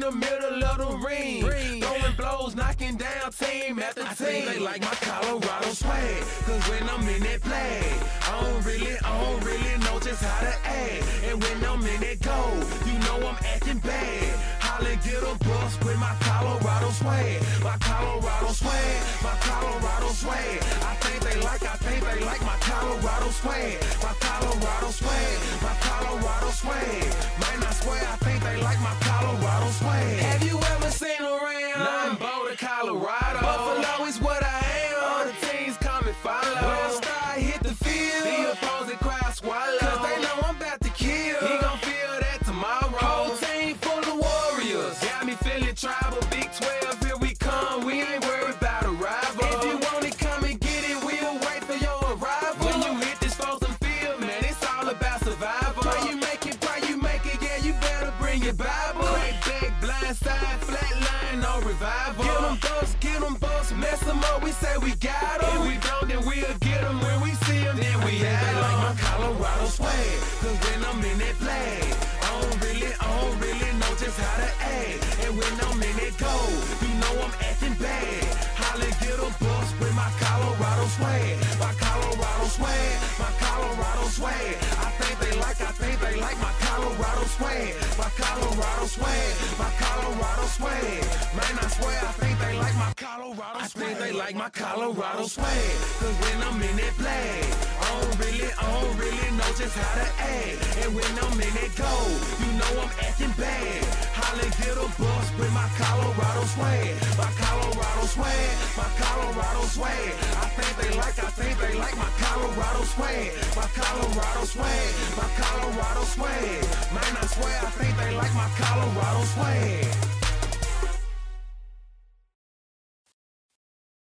the middle of the ring. Throwing blows, knocking down team after team. I think they like my Colorado swag, cause when I'm in that play, I don't really know just how to act. And when I'm in that goal, you know I'm acting bad. Holla, get a bus with my Colorado swag. My Colorado swag, my Colorado swag. I think they like my Colorado swag. My Colorado swag, my Colorado swag. Man, I swear, I think they like my Colorado swag. Have you ever seen around? Now I'm Boulder, Colorado. Buffalo is what I am. All the teams come and follow. When I start hit the field, the opposing crowd swallow. Cause they know I'm about to kill. He gon' feel that tomorrow. Whole team full of warriors. Got me feeling tribal. Big 12, here we come. We ain't worried about a rival. If you want it, come and get it. We'll wait for your arrival. When you hit this frozen field, man, it's all about survival. Pray you make it, yeah, you better bring your Bible. Crack back, blind side, flat line, no revival. Get them busts, mess them up, we say we got them. If we don't, then we'll get them. When we see them, then we have them. They like my Colorado swag, cause when I'm in that play, I don't really know just how to act. And when I'm in that goal, you know I'm acting bad. Holla, get a bus with my Colorado swag. My Colorado swag, my Colorado swag. I think they like my Colorado swag. My Colorado swag, my Colorado swag. Man, I swear, I think they like my Colorado swag. I think they like my Colorado swag, cause when I'm in that play, I don't really know just how to act. And when I'm in that goal, you know I'm acting bad. Holla, get a bus with my Colorado swag. My Colorado swag, my Colorado swag. I think they like my Colorado swag. My Colorado swag, my Colorado swag. Man, I swear, I think they like my Colorado swag.